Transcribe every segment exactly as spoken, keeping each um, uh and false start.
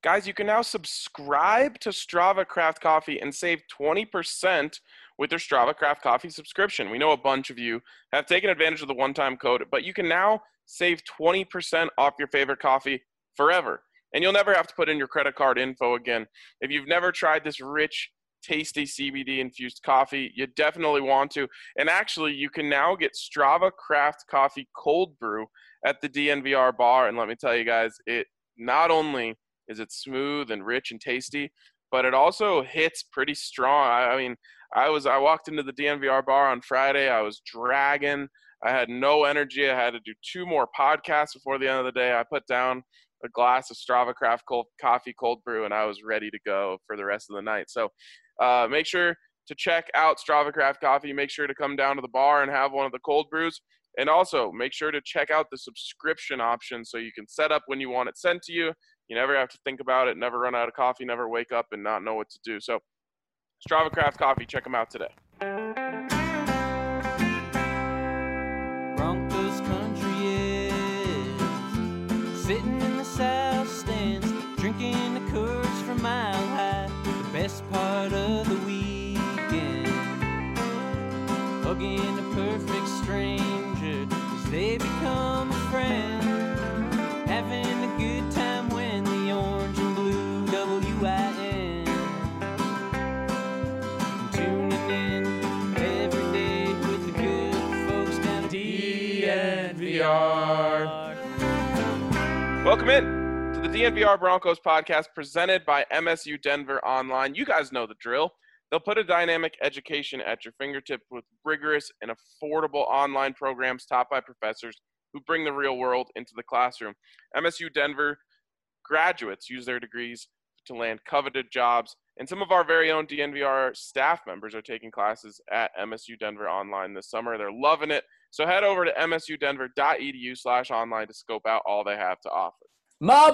Guys, you can now subscribe to Strava Craft Coffee and save twenty percent with your Strava Craft Coffee subscription. We know a bunch of you have taken advantage of the one-time code, but you can now save twenty percent off your favorite coffee forever. And you'll never have to put in your credit card info again. If you've never tried this rich, tasty C B D-infused coffee, you definitely want to. And actually, you can now get Strava Craft Coffee Cold Brew at the D N V R bar. And let me tell you guys, it not only is it smooth and rich and tasty, but it also hits pretty strong. I, I mean, I was I walked into the D N V R bar on Friday. I was dragging. I had no energy. I had to do two more podcasts before the end of the day. I put down a glass of Strava Craft cold, coffee cold brew, and I was ready to go for the rest of the night. So uh, make sure to check out Strava Craft Coffee. Make sure to come down to the bar and have one of the cold brews. And also make sure to check out the subscription option so you can set up when you want it sent to you. You never have to think about it, never run out of coffee, never wake up and not know what to do. So Strava Craft Coffee, check them out today. Broncos country is sitting in the south stands, drinking the Coors from Mile High, the best part of the weekend, hugging a perfect stranger as they become a friend, having a good time when the orange and blue W I N, tuning in every day with the good folks down at D N V R. Welcome in to the D N V R Broncos podcast presented by M S U Denver Online. You guys know the drill. They'll put a dynamic education at your fingertips with rigorous and affordable online programs taught by professors who bring the real world into the classroom. M S U Denver graduates use their degrees to land coveted jobs, and some of our very own D N V R staff members are taking classes at M S U Denver Online this summer. They're loving it. So head over to msudenver.edu slash online to scope out all they have to offer. My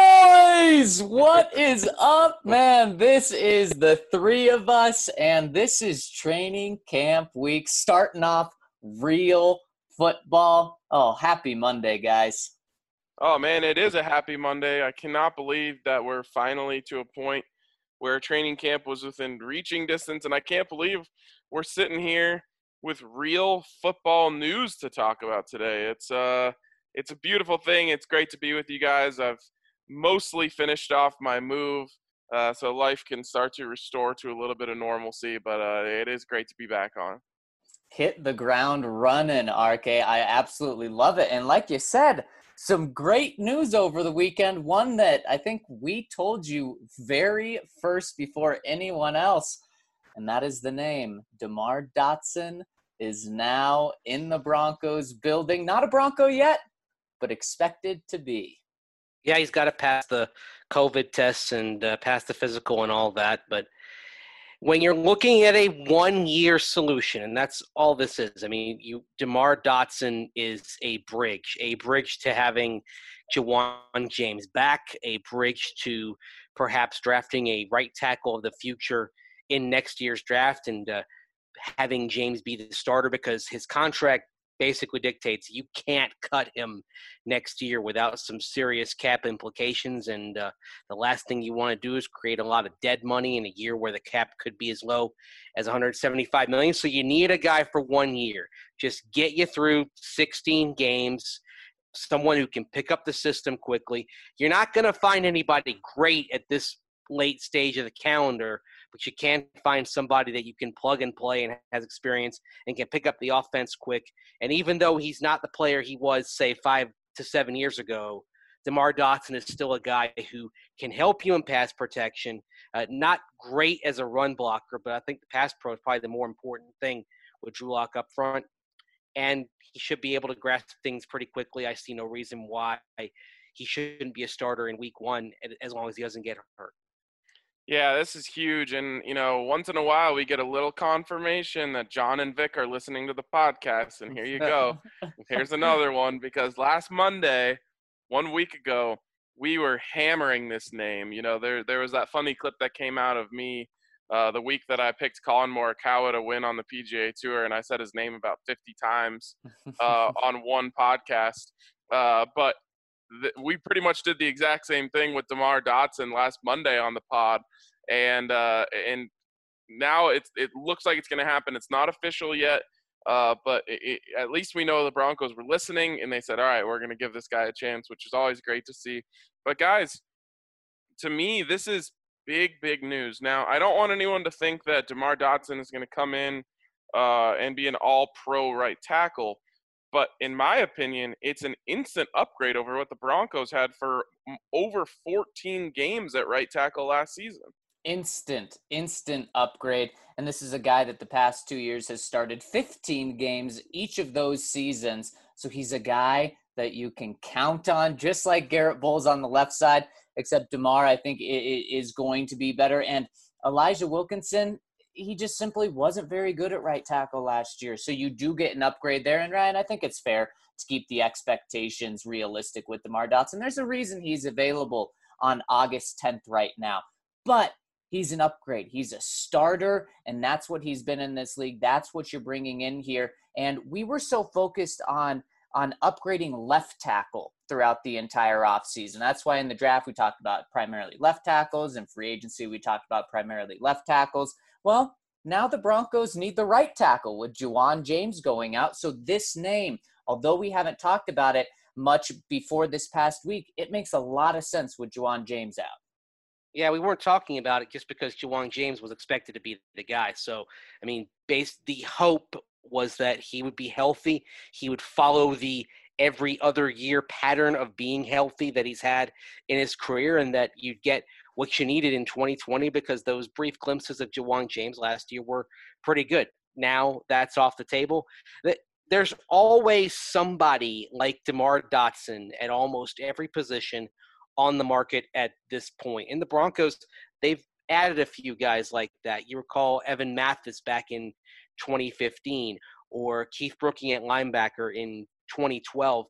boys, what is up, man? This is the three of us, and this is training camp week, starting off real football. Oh, happy Monday, guys. Oh, man, it is a happy Monday. I cannot believe that we're finally to a point where training camp was within reaching distance, and I can't believe we're sitting here with real football news to talk about today. It's uh, it's a beautiful thing. It's great to be with you guys. I've mostly finished off my move, uh, so life can start to restore to a little bit of normalcy, but uh, it is great to be back on. Hit the ground running, R K. I absolutely love it. And like you said, some great news over the weekend, one that I think we told you very first before anyone else, and that is the name. DeMar Dotson is now in the Broncos building. Not a Bronco yet, but expected to be. Yeah, he's got to pass the COVID tests and uh, pass the physical and all that. But when you're looking at a one-year solution, and that's all this is, I mean, you DeMar Dotson is a bridge, a bridge to having Jawan James back, a bridge to perhaps drafting a right tackle of the future in next year's draft and uh, having James be the starter, because his contract basically dictates you can't cut him next year without some serious cap implications. And uh, the last thing you want to do is create a lot of dead money in a year where the cap could be as low as one hundred seventy-five million dollars. So you need a guy for one year. Just get you through sixteen games, someone who can pick up the system quickly. You're not going to find anybody great at this late stage of the calendar, but you can find somebody that you can plug and play and has experience and can pick up the offense quick. And even though he's not the player he was, say, five to seven years ago, DeMar Dotson is still a guy who can help you in pass protection. Uh, not great as a run blocker, but I think the pass pro is probably the more important thing with Drew Lock up front. And he should be able to grasp things pretty quickly. I see no reason why he shouldn't be a starter in week one as long as he doesn't get hurt. Yeah, this is huge. And, you know, once in a while we get a little confirmation that John and Vic are listening to the podcast. And here you go. Here's another one, because last Monday, one week ago, we were hammering this name. You know, there there was that funny clip that came out of me uh, the week that I picked Colin Morikawa to win on the P G A Tour, and I said his name about fifty times uh, on one podcast. Uh, but th- we pretty much did the exact same thing with DeMar Dotson last Monday on the pod, and uh, and now it's it looks like it's going to happen. It's not official yet, uh, but it, it, at least we know the Broncos were listening, and they said, all right, we're going to give this guy a chance, which is always great to see. But guys, to me, this is big, big news. Now, I don't want anyone to think that DeMar Dotson is going to come in uh, and be an all-pro right tackle. But in my opinion, it's an instant upgrade over what the Broncos had for over fourteen games at right tackle last season. Instant, instant upgrade. And this is a guy that the past two years has started fifteen games each of those seasons. So he's a guy that you can count on, just like Garrett Bowles on the left side, except DeMar, I think, is going to be better. And Elijah Wilkinson, he just simply wasn't very good at right tackle last year. So you do get an upgrade there. And Ryan, I think it's fair to keep the expectations realistic with DeMar Dotson. There's a reason he's available on August tenth right now. But he's an upgrade. He's a starter, and that's what he's been in this league. That's what you're bringing in here. And we were so focused on, on upgrading left tackle throughout the entire offseason. That's why in the draft we talked about primarily left tackles. In free agency we talked about primarily left tackles. Well, now the Broncos need the right tackle with Ja'Wuan James going out. So this name, although we haven't talked about it much before this past week, it makes a lot of sense with Ja'Wuan James out. Yeah, we weren't talking about it just because Ja'Wuan James was expected to be the guy. So, I mean, based the hope was that he would be healthy. He would follow the every other year pattern of being healthy that he's had in his career, and that you'd get what you needed in twenty twenty, because those brief glimpses of Ja'Wuan James last year were pretty good. Now that's off the table. There's always somebody like DeMar Dotson at almost every position on the market at this point. In the Broncos, they've added a few guys like that. You recall Evan Mathis back in twenty fifteen, or Keith Brooking at linebacker in twenty twelve.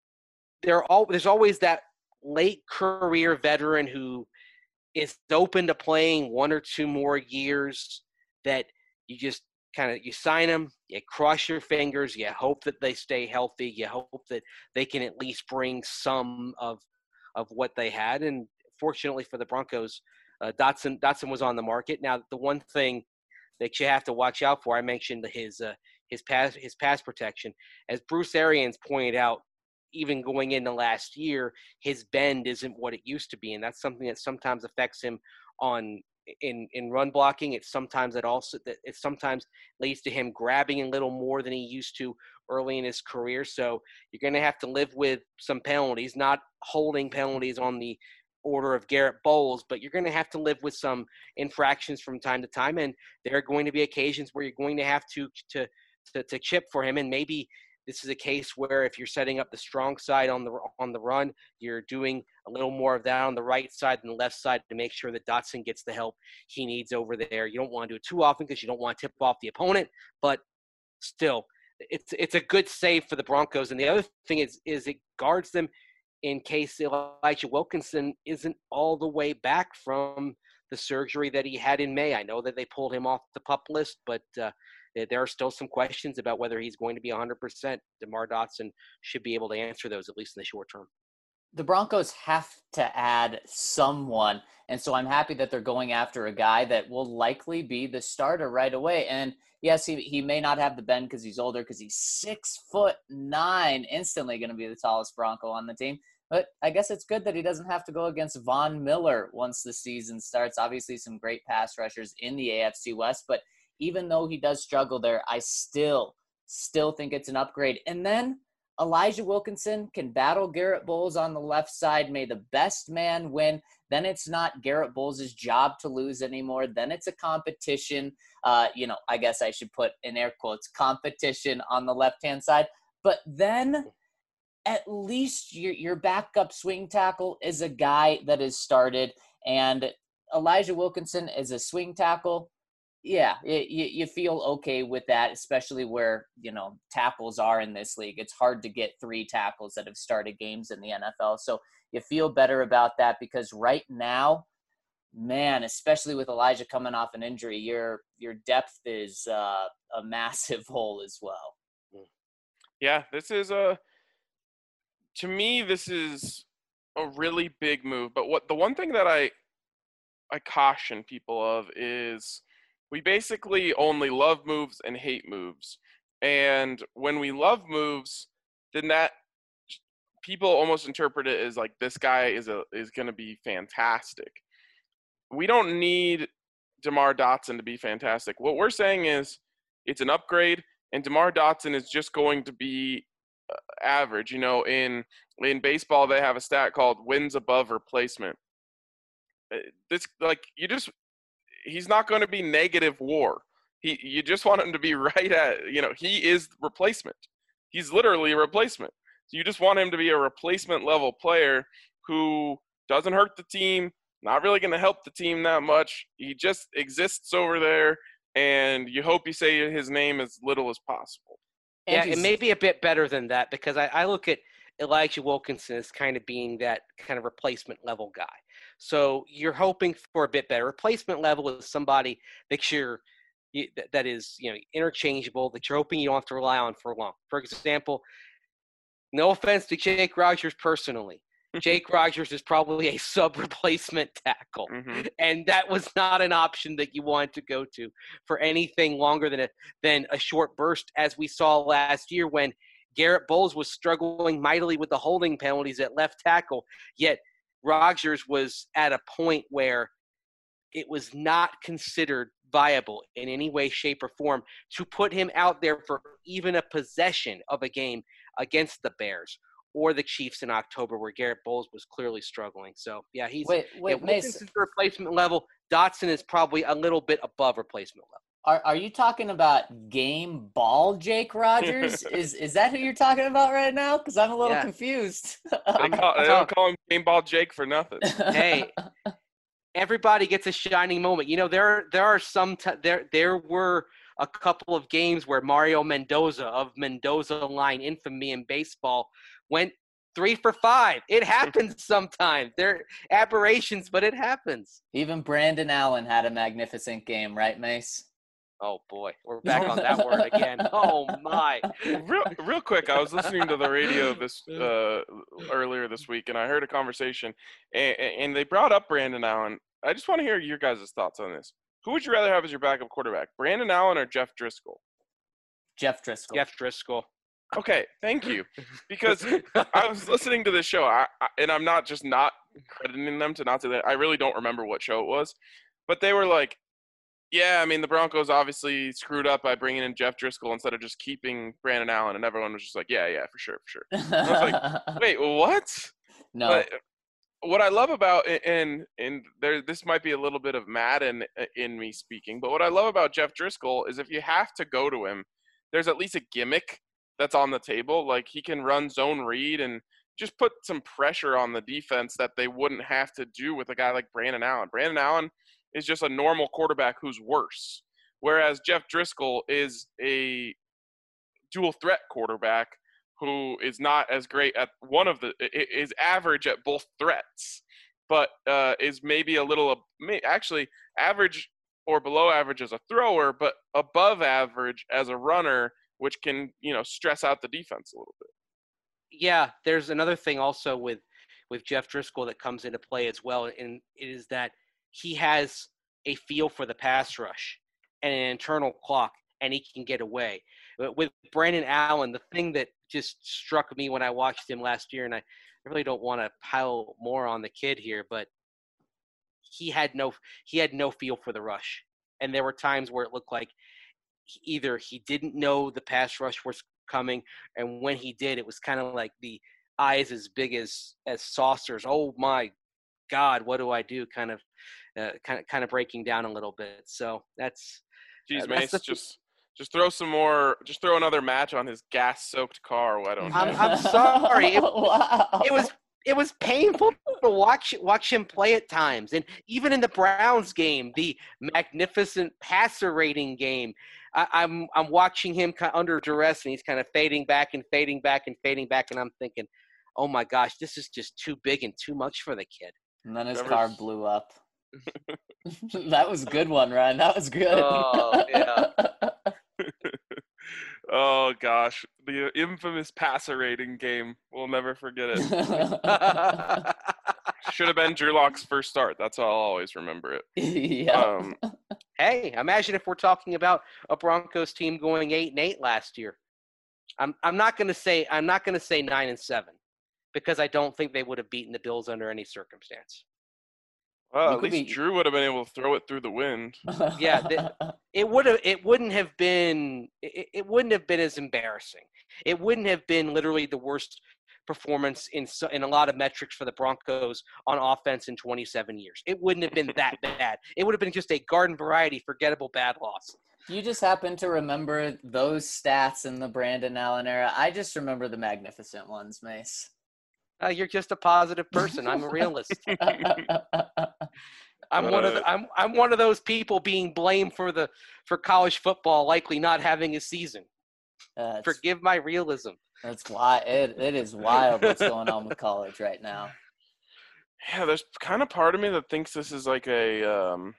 There all, there's always that late career veteran who is open to playing one or two more years, that you just kind of, you sign them, you cross your fingers, you hope that they stay healthy, you hope that they can at least bring some of of what they had. And fortunately for the Broncos, uh, Dotson Dotson was on the market. Now, the one thing that you have to watch out for, I mentioned his uh, his pass his pass protection. As Bruce Arians pointed out, even going into last year, his bend isn't what it used to be, and that's something that sometimes affects him on in in run blocking. It's sometimes it also it sometimes leads to him grabbing a little more than he used to early in his career. So you're going to have to live with some penalties, not holding penalties on the order of Garrett Bowles, but you're going to have to live with some infractions from time to time, and there are going to be occasions where you're going to have to to to, to chip for him. And maybe this is a case where if you're setting up the strong side on the on the run, you're doing a little more of that on the right side than the left side to make sure that Dotson gets the help he needs over there. You don't want to do it too often because you don't want to tip off the opponent, but still, it's it's a good save for the Broncos. And the other thing is is it guards them in case Elijah Wilkinson isn't all the way back from the surgery that he had in May. I know that they pulled him off the PUP list, but uh, there are still some questions about whether he's going to be one hundred percent. DeMar Dotson should be able to answer those, at least in the short term. The Broncos have to add someone, and so I'm happy that they're going after a guy that will likely be the starter right away. And yes, he, he may not have the bend because he's older, because he's six foot nine, instantly going to be the tallest Bronco on the team. But I guess it's good that he doesn't have to go against Von Miller once the season starts. Obviously, some great pass rushers in the A F C West, but even though he does struggle there, I still, still think it's an upgrade. And then Elijah Wilkinson can battle Garrett Bowles on the left side. May the best man win. Then it's not Garrett Bowles' job to lose anymore. Then it's a competition. Uh, you know, I guess I should put in air quotes, competition on the left-hand side. But then at least your, your backup swing tackle is a guy that is started. And Elijah Wilkinson is a swing tackle. Yeah, it, you, you feel okay with that, especially where, you know, tackles are in this league. It's hard to get three tackles that have started games in the N F L. So you feel better about that, because right now, man, especially with Elijah coming off an injury, your your depth is uh, a massive hole as well. Yeah, this is a to me, this is a really big move. But what the one thing that I I caution people of is we basically only love moves and hate moves. And when we love moves, then that people almost interpret it as like this guy is a is going to be fantastic. We don't need DeMar Dotson to be fantastic. What we're saying is it's an upgrade, and DeMar Dotson is just going to be uh, average. You know, in in baseball, they have a stat called wins above replacement. This like you just he's not going to be negative WAR. He you just want him to be right at you know he is replacement. He's literally a replacement. So you just want him to be a replacement level player who doesn't hurt the team, not really going to help the team that much. He just exists over there, and you hope you say his name as little as possible. Yeah, Andrew's- it may be a bit better than that because I, I look at Elijah Wilkinson as kind of being that kind of replacement level guy. So you're hoping for a bit better. Replacement level is somebody that you're that is you know interchangeable, that you're hoping you don't have to rely on for long. For example, no offense to Jake Rogers personally, Jake Rogers is probably a sub-replacement tackle, Mm-hmm. and that was not an option that you wanted to go to for anything longer than a than a short burst, as we saw last year when Garrett Bowles was struggling mightily with the holding penalties at left tackle, yet Rogers was at a point where it was not considered viable in any way, shape, or form to put him out there for even a possession of a game against the Bears or the Chiefs in October where Garrett Bowles was clearly struggling. So, yeah, he's Wait, wait, yeah, Mace, Wilkinson's replacement level. Dotson is probably a little bit above replacement level. are are you talking about game ball Jake Rogers? is is that who you're talking about right now? Because I'm a little Yeah. confused. They, call, they don't call him Game Ball Jake for nothing. Hey, everybody gets a shining moment. You know, there there are some t- there there were a couple of games where Mario Mendoza of Mendoza line infamy in baseball went three for five. It happens sometimes. They're aberrations, but it happens. Even Brandon Allen had a magnificent game, right, Mace? Oh boy, we're back on that word again. Oh my. real, real quick, I was listening to the radio this uh, earlier this week, and I heard a conversation, and, and they brought up Brandon Allen. I just want to hear your guys' thoughts on this. Who would you rather have as your backup quarterback, Brandon Allen or Jeff Driscoll? Jeff Driscoll. Jeff Driscoll. Okay, thank you. Because I was listening to this show, I, I, and I'm not just not crediting them to not say that. I really don't remember what show it was, but they were like, yeah, I mean, the Broncos obviously screwed up by bringing in Jeff Driscoll instead of just keeping Brandon Allen, and everyone was just like, yeah, yeah, for sure, for sure. I was like, wait, what? no. But what I love about, and and there, this might be a little bit of Madden in me speaking, but what I love about Jeff Driscoll is if you have to go to him, there's at least a gimmick that's on the table. Like he can run zone read and just put some pressure on the defense that they wouldn't have to do with a guy like Brandon Allen. Brandon Allen is just a normal quarterback who's worse, whereas Jeff Driscoll is a dual threat quarterback who is not as great at one of the is average at both threats, but uh, is maybe a little actually average or below average as a thrower, but above average as a runner, which can you know stress out the defense a little bit. Yeah, there's another thing also with with Jeff Driscoll that comes into play as well, and it is that he has a feel for the pass rush and an internal clock, and he can get away. But with Brandon Allen, the thing that just struck me when I watched him last year, and I really don't want to pile more on the kid here, but he had no he had no feel for the rush, and there were times where it looked like either he didn't know the pass rush was coming, and when he did, it was kind of like the eyes as big as as saucers. Oh my God, what do I do? Kind of, uh, kind of, kind of breaking down a little bit. So that's. Geez, uh, Mace, that's the, just just throw some more. Just throw another match on his gas-soaked car. Why don't you? I'm, I'm sorry. It, wow. it was it was painful to watch watch him play at times, and even in the Browns game, the magnificent passer rating game. I, I'm I'm watching him kind of under duress, and he's kind of fading back and fading back and fading back, and I'm thinking, oh my gosh, this is just too big and too much for the kid. And then his Never- car blew up. That was a good one, Ryan. That was good. Oh, yeah. Oh gosh, the infamous passer rating game. We'll never forget it. Should have been Drew Lock's first start. That's how I'll always remember it. Yeah. Um, Hey, imagine if we're talking about a Broncos team going eight and eight last year. I'm I'm not gonna say I'm not gonna say nine and seven because I don't think they would have beaten the Bills under any circumstance. well, You at could least be- Drew would have been able to throw it through the wind. Yeah, the- It would have. It wouldn't have been. It, it wouldn't have been as embarrassing. It wouldn't have been literally the worst performance in so, in a lot of metrics for the Broncos on offense in twenty-seven years. It wouldn't have been that bad. It would have been just a garden variety, forgettable bad loss. You just happen to remember those stats in the Brandon Allen era. I just remember the magnificent ones, Mace. Uh, you're just a positive person. I'm a realist. I'm one of the, I'm I'm one of those people being blamed for the for college football likely not having a season. That's, Forgive my realism. that's why it, it is wild what's going on with college right now. Yeah, there's kind of part of me that thinks this is like a um,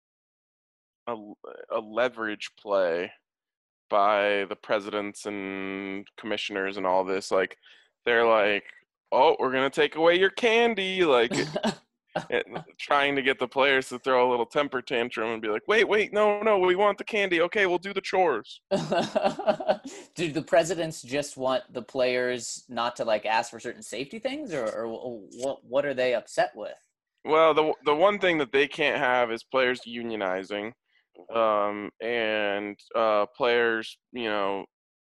a, a leverage play by the presidents and commissioners and all this. Like, they're like, oh, we're going to take away your candy. Like, it, trying to get the players to throw a little temper tantrum and be like, wait, wait, no, no, we want the candy. Okay, we'll do the chores. Do the presidents just want the players not to like ask for certain safety things, or, or what? What are they upset with? Well, the the one thing that they can't have is players unionizing, um, and uh, players, you know,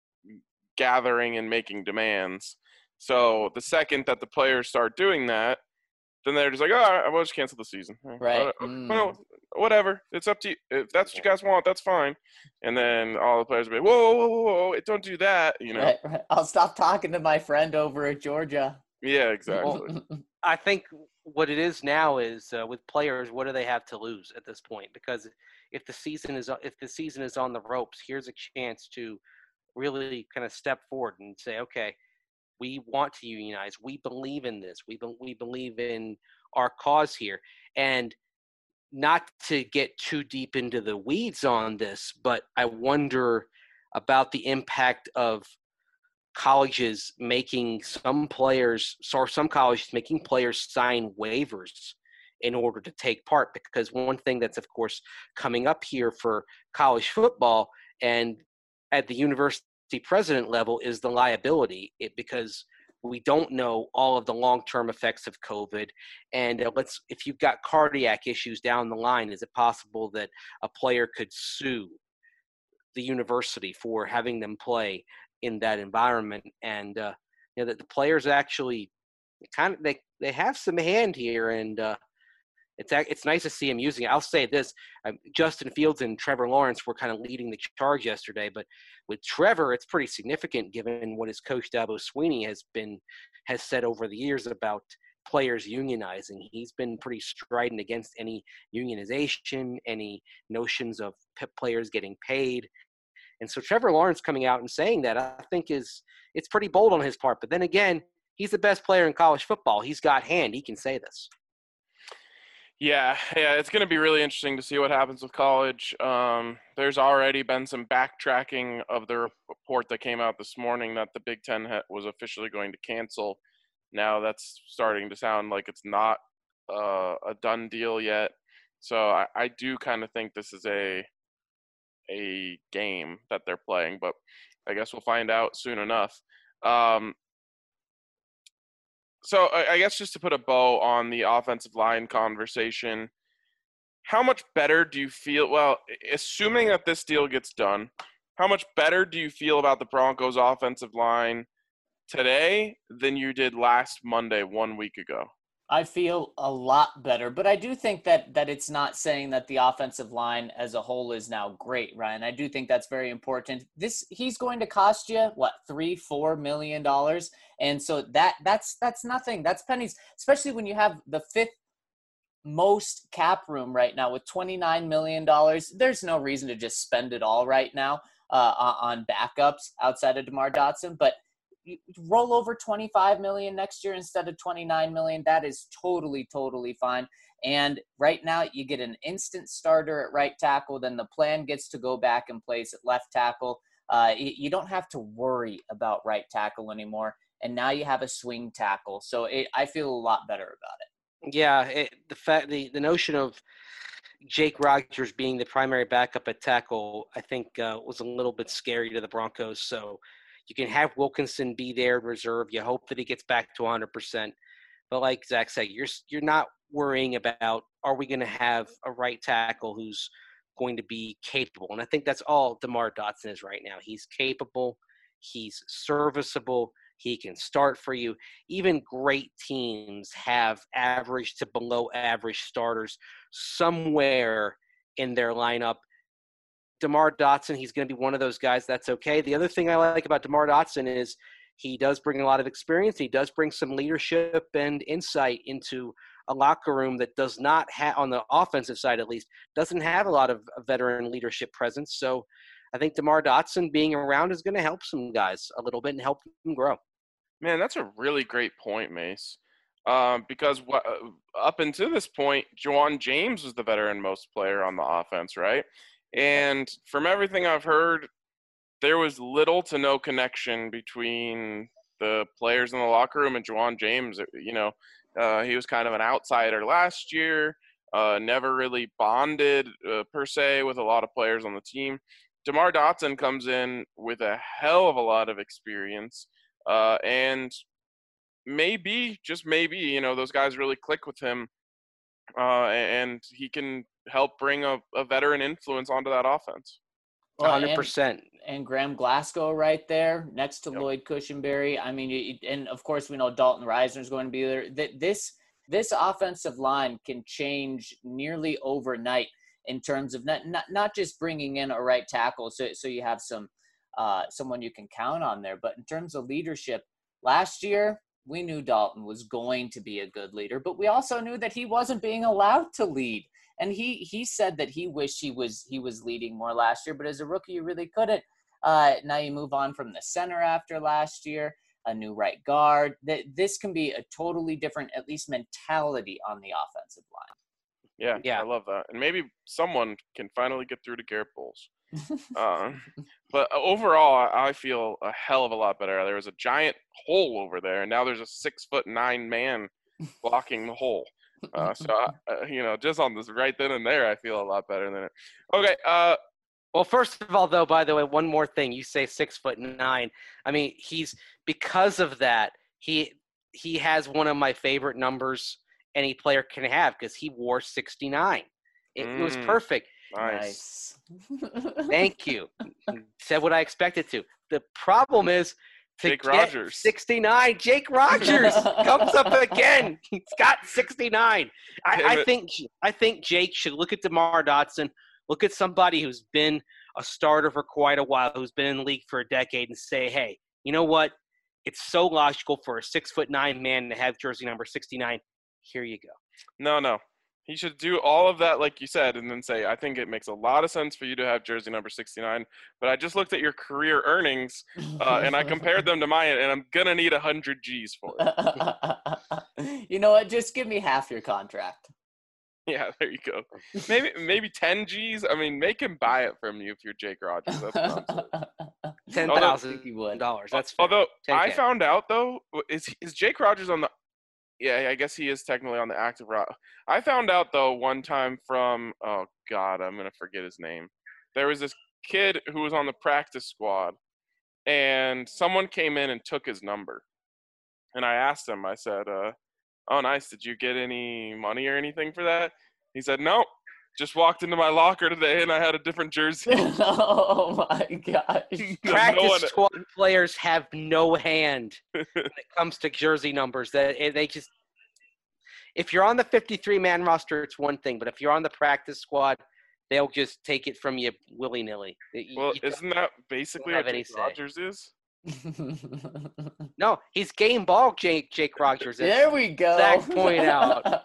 gathering and making demands. So the second that the players start doing that, then they're just like, oh, all right, we'll just cancel the season. Right. Uh, Mm. Well, whatever. It's up to you. If that's what you guys want, that's fine. And then all the players will be like, whoa, whoa, whoa, whoa, whoa, don't do that. You know? Right, right. I'll stop talking to my friend over at Georgia. Yeah, exactly. I think what it is now is uh, with players, what do they have to lose at this point? Because if the season is if the season is on the ropes, here's a chance to really kind of step forward and say, okay, we want to unionize. We believe in this. We be- we believe in our cause here. And not to get too deep into the weeds on this, but I wonder about the impact of colleges making some players, or some colleges making players sign waivers in order to take part. Because one thing that's, of course, coming up here for college football and at the university president level is the liability, it, because we don't know all of the long-term effects of COVID. And uh, let's, if you've got cardiac issues down the line, is it possible that a player could sue the university for having them play in that environment? And uh, you know, that the players actually kind of, they, they have some hand here, and uh, it's it's nice to see him using it. I'll say this, um, Justin Fields and Trevor Lawrence were kind of leading the charge yesterday, but with Trevor, it's pretty significant given what his coach Dabo Swinney has been has said over the years about players unionizing. He's been pretty strident against any unionization, any notions of players getting paid. And so Trevor Lawrence coming out and saying that, I think is it's pretty bold on his part. But then again, he's the best player in college football. He's got hand. He can say this. Yeah, yeah, it's going to be really interesting to see what happens with college. Um, there's already been some backtracking of the report that came out this morning that the Big Ten ha- was officially going to cancel. Now that's starting to sound like it's not uh, a done deal yet. So I, I do kind of think this is a a game that they're playing, but I guess we'll find out soon enough. Um, So I guess just to put a bow on the offensive line conversation, how much better do you feel? Well, assuming that this deal gets done, how much better do you feel about the Broncos offensive line today than you did last Monday, one week ago? I feel a lot better, but I do think that that it's not saying that the offensive line as a whole is now great, Ryan. I do think that's very important. This he's going to cost you what three, four million dollars, and so that that's that's nothing. That's pennies, especially when you have the fifth most cap room right now with twenty-nine million dollars. There's no reason to just spend it all right now uh, on backups outside of DeMar Dotson, but you roll over twenty-five million next year instead of twenty-nine million. That is totally, totally fine. And right now you get an instant starter at right tackle. Then the plan gets to go back in place at left tackle. uh, you, you don't have to worry about right tackle anymore. And now you have a swing tackle. So it, I feel a lot better about it. Yeah, it, the fact the, the notion of Jake Rogers being the primary backup at tackle, I think, uh, was a little bit scary to the Broncos. So you can have Wilkinson be there in reserve. You hope that he gets back to one hundred percent. But like Zach said, you're you're not worrying about, are we going to have a right tackle who's going to be capable? And I think that's all DeMar Dotson is right now. He's capable. He's serviceable. He can start for you. Even great teams have average to below average starters somewhere in their lineup. DeMar Dotson, he's going to be one of those guys. That's okay. The other thing I like about DeMar Dotson is he does bring a lot of experience. He does bring some leadership and insight into a locker room that does not have, on the offensive side at least, doesn't have a lot of veteran leadership presence. So I think DeMar Dotson being around is going to help some guys a little bit and help them grow. Man, that's a really great point, Mace. Um, because what, up until this point, Ja'Wuan James was the veteran most player on the offense, right? And from everything I've heard, there was little to no connection between the players in the locker room and Ja'Wuan James. You know, uh, he was kind of an outsider last year, uh, never really bonded uh, per se with a lot of players on the team. DeMar Dotson comes in with a hell of a lot of experience. Uh, and maybe, just maybe, you know, those guys really click with him, uh, and he can help bring a, a veteran influence onto that offense. Well, one hundred percent. And, and Graham Glasgow right there next to Yep. Lloyd Cushenberry. I mean, you, and of course we know Dalton Reisner is going to be there. That this this offensive line can change nearly overnight in terms of not not, not just bringing in a right tackle, so so you have some. Uh, someone you can count on there. But in terms of leadership, last year, we knew Dalton was going to be a good leader, but we also knew that he wasn't being allowed to lead. And he he said that he wished he was he was leading more last year, but as a rookie, you really couldn't. Uh, now you move on from the center after last year, a new right guard. That This can be a totally different, at least, mentality on the offensive line. Yeah, Yeah. I love that. And maybe someone can finally get through to Garrett Bowles. uh, but overall, I feel a hell of a lot better. There was a giant hole over there, and now there's a six foot nine man blocking the hole. Uh, so, uh, you know, just on this right then and there, I feel a lot better than it. Okay. Uh, Well, first of all, though, by the way, one more thing. You say six foot nine. I mean, he's because of that, he he has one of my favorite numbers any player can have because he wore sixty-nine. It, Mm. it was perfect. nice. Thank you. Said what I expected to. The problem is to Jake get Rogers. sixty-nine. Jake Rogers comes up again. He's got sixty-nine. I, Damn I it. think I think Jake should look at DeMar Dotson, look at somebody who's been a starter for quite a while, who's been in the league for a decade, and say, hey, you know what? It's so logical for a six foot nine man to have jersey number sixty-nine. Here you go. No, no. He should do all of that, like you said, and then say, I think it makes a lot of sense for you to have jersey number sixty-nine, but I just looked at your career earnings, uh, and I compared them to mine, and I'm going to need one hundred G's for it. You know what? Just give me half your contract. Yeah, there you go. Maybe maybe ten G's. I mean, make him buy it from you if you're Jake Rogers. That's what I'm saying. Ten Although- thousand dollars. That's fair. Although I ten K. found out though, is is Jake Rogers on the? Yeah, I guess he is technically on the active route. I found out though one time from oh god, I'm gonna forget his name. There was this kid who was on the practice squad, and someone came in and took his number, and I asked him. I said, uh, "Oh, nice. Did you get any money or anything for that?" He said, "Nope. Just walked into my locker today, and I had a different jersey." Oh my gosh. No Practice one- squad players have no hand when it comes to jersey numbers. That they just, if you're on the fifty-three man roster, it's one thing, but if you're on the practice squad, they'll just take it from you willy nilly. Well, isn't that basically have what any Jake say. Rogers is? no, he's game ball. Jake Jake Rogers. Is. There we go. Zach point out.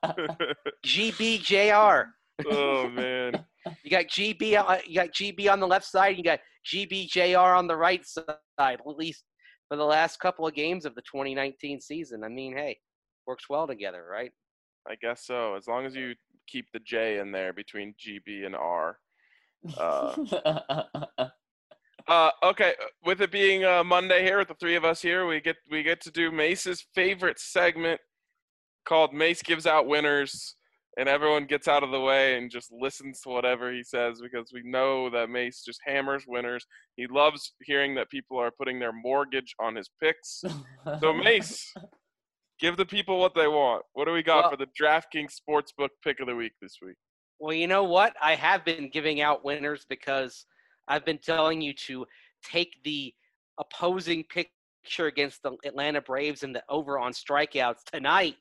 G B J R. Oh man. You got G B. on- You got G B on the left side. You got G B J R on the right side. At least for the last couple of games of the twenty nineteen season. I mean, hey, works well together, right? I guess so. As long as you keep the J in there between G B and R. Uh, Uh, okay, with it being uh, Monday here, with the three of us here, we get we get to do Mace's favorite segment called Mace Gives Out Winners, and everyone gets out of the way and just listens to whatever he says because we know that Mace just hammers winners. He loves hearing that people are putting their mortgage on his picks. So Mace, give the people what they want. What do we got Well- for the DraftKings Sportsbook pick of the week this week? Well, you know what? I have been giving out winners because I've been telling you to take the opposing picture against the Atlanta Braves and the over on strikeouts tonight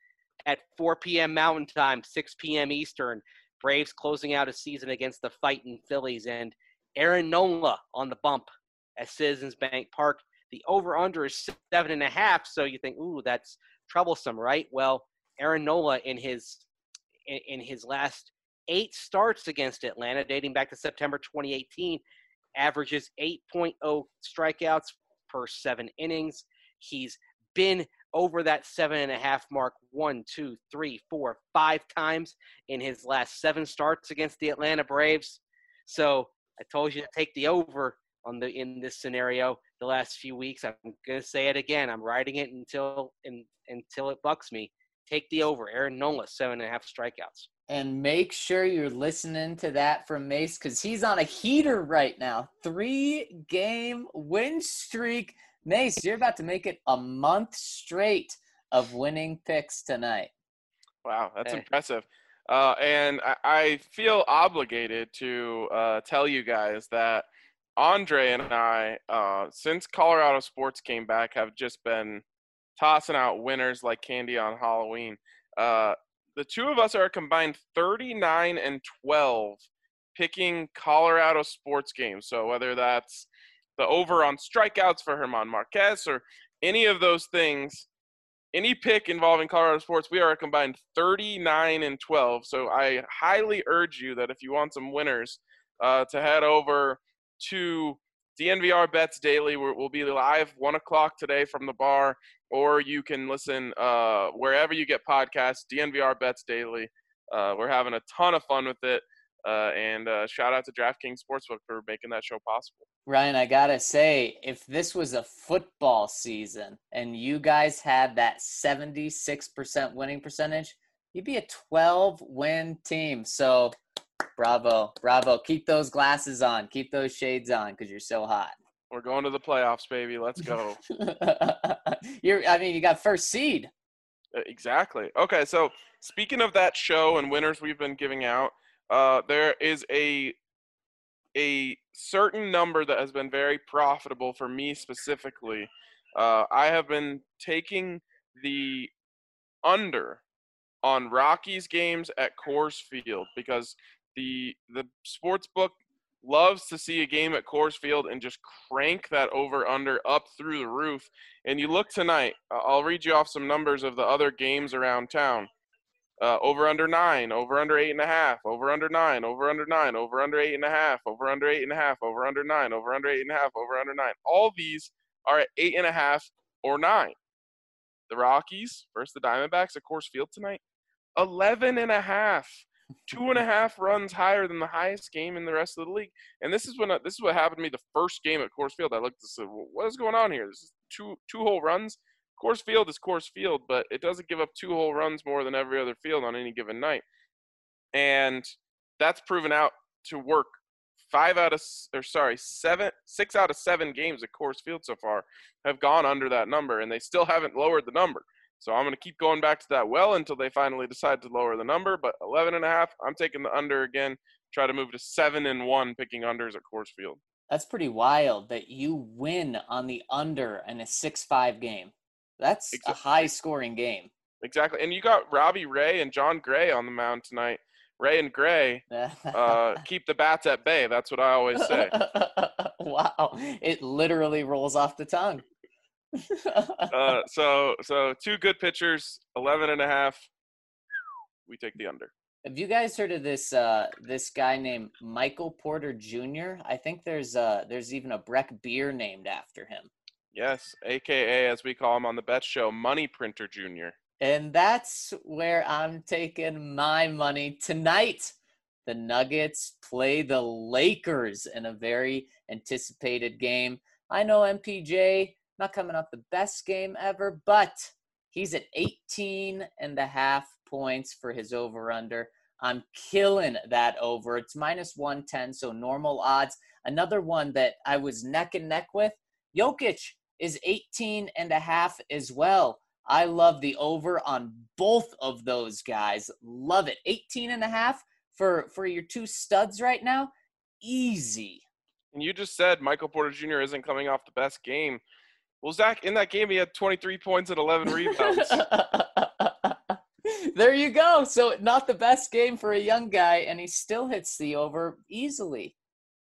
at four p.m. Mountain Time, six p.m. Eastern. Braves closing out a season against the fighting Phillies, and Aaron Nola on the bump at Citizens Bank Park. The over-under is seven and a half, so you think, ooh, that's troublesome, right? Well, Aaron Nola in his in, in his last eight starts against Atlanta, dating back to September twenty eighteen, averages eight point oh strikeouts per seven innings. He's been over that seven and a half mark one, two, three, four, five times in his last seven starts against the Atlanta Braves. So I told you to take the over on the in this scenario the last few weeks. I'm gonna say it again. I'm riding it until in, until it bucks me. Take the over. Aaron Nola, seven and a half strikeouts. And make sure you're listening to that from Mace because he's on a heater right now. Three game win streak. Mace, you're about to make it a month straight of winning picks tonight. Wow, that's Hey. impressive. Uh, and I, I feel obligated to uh, tell you guys that Andre and I, uh, since Colorado sports came back, have just been tossing out winners like candy on Halloween. Uh, the two of us are a combined thirty-nine and twelve picking Colorado sports games. So whether that's the over on strikeouts for German Marquez or any of those things, any pick involving Colorado sports, we are a combined thirty-nine and twelve. So I highly urge you that if you want some winners, uh, to head over to D N V R Bets Daily. We're, we'll be live one o'clock today from the bar, or you can listen uh, wherever you get podcasts, D N V R Bets Daily. Uh, we're having a ton of fun with it. Uh, and uh, shout out to DraftKings Sportsbook for making that show possible. Ryan, I gotta say, if this was a football season and you guys had that seventy-six percent winning percentage, you'd be a twelve win team. So bravo, bravo. Keep those glasses on. Keep those shades on because you're so hot. We're going to the playoffs, baby. Let's go. you're, I mean, you got first seed. Uh, Exactly. Okay, so speaking of that show and winners we've been giving out, uh, there is a a certain number that has been very profitable for me specifically. Uh, I have been taking the under on Rockies games at Coors Field because the the sports book loves to see a game at Coors Field and just crank that over under up through the roof. And you look tonight, uh, I'll read you off some numbers of the other games around town. Uh, over under nine, over under eight and a half, over under nine, over under nine, over under eight and a half, over under eight and a half, over under nine, over under eight and a half, over under nine. All these are at eight and a half or nine. The Rockies versus the Diamondbacks at Coors Field tonight, eleven and a half, two and a half runs higher than the highest game in the rest of the league. And this is when this is what happened to me the first game at Coors Field. I looked and said, well, what is going on here? This is two two whole runs. Coors Field is Coors Field, but it doesn't give up two whole runs more than every other field on any given night. And that's proven out to work. Five out of, or sorry, seven, six out of seven games at Coors Field so far have gone under that number, and they still haven't lowered the number. So I'm going to keep going back to that well until they finally decide to lower the number. But eleven and a half, I'm taking the under again. Try to move to seven and one picking unders at Coors Field. That's pretty wild that you win on the under in a six five game. That's Exactly. a high-scoring game. Exactly. And you got Robbie Ray and John Gray on the mound tonight. Ray and Gray uh, keep the bats at bay. That's what I always say. Wow. It literally rolls off the tongue. Uh, so, so two good pitchers, eleven and a half. We take the under. Have you guys heard of this uh, this guy named Michael Porter Junior? I think there's uh, there's even a Breck beer named after him. Yes, A K A, as we call him on the Bet Show, Money Printer Junior And that's where I'm taking my money tonight. the Nuggets play the Lakers in a very anticipated game. I know M P J not coming off the best game ever, but he's at eighteen and a half points for his over-under. I'm killing that over. It's minus one ten, so normal odds. Another one that I was neck and neck with, Jokic is eighteen and a half as well. I love the over on both of those guys. Love it. eighteen and a half for, for your two studs right now. Easy. And you just said Michael Porter Junior isn't coming off the best game. Well, Zach, in that game, he had twenty-three points and eleven rebounds. There you go. So not the best game for a young guy, and he still hits the over easily.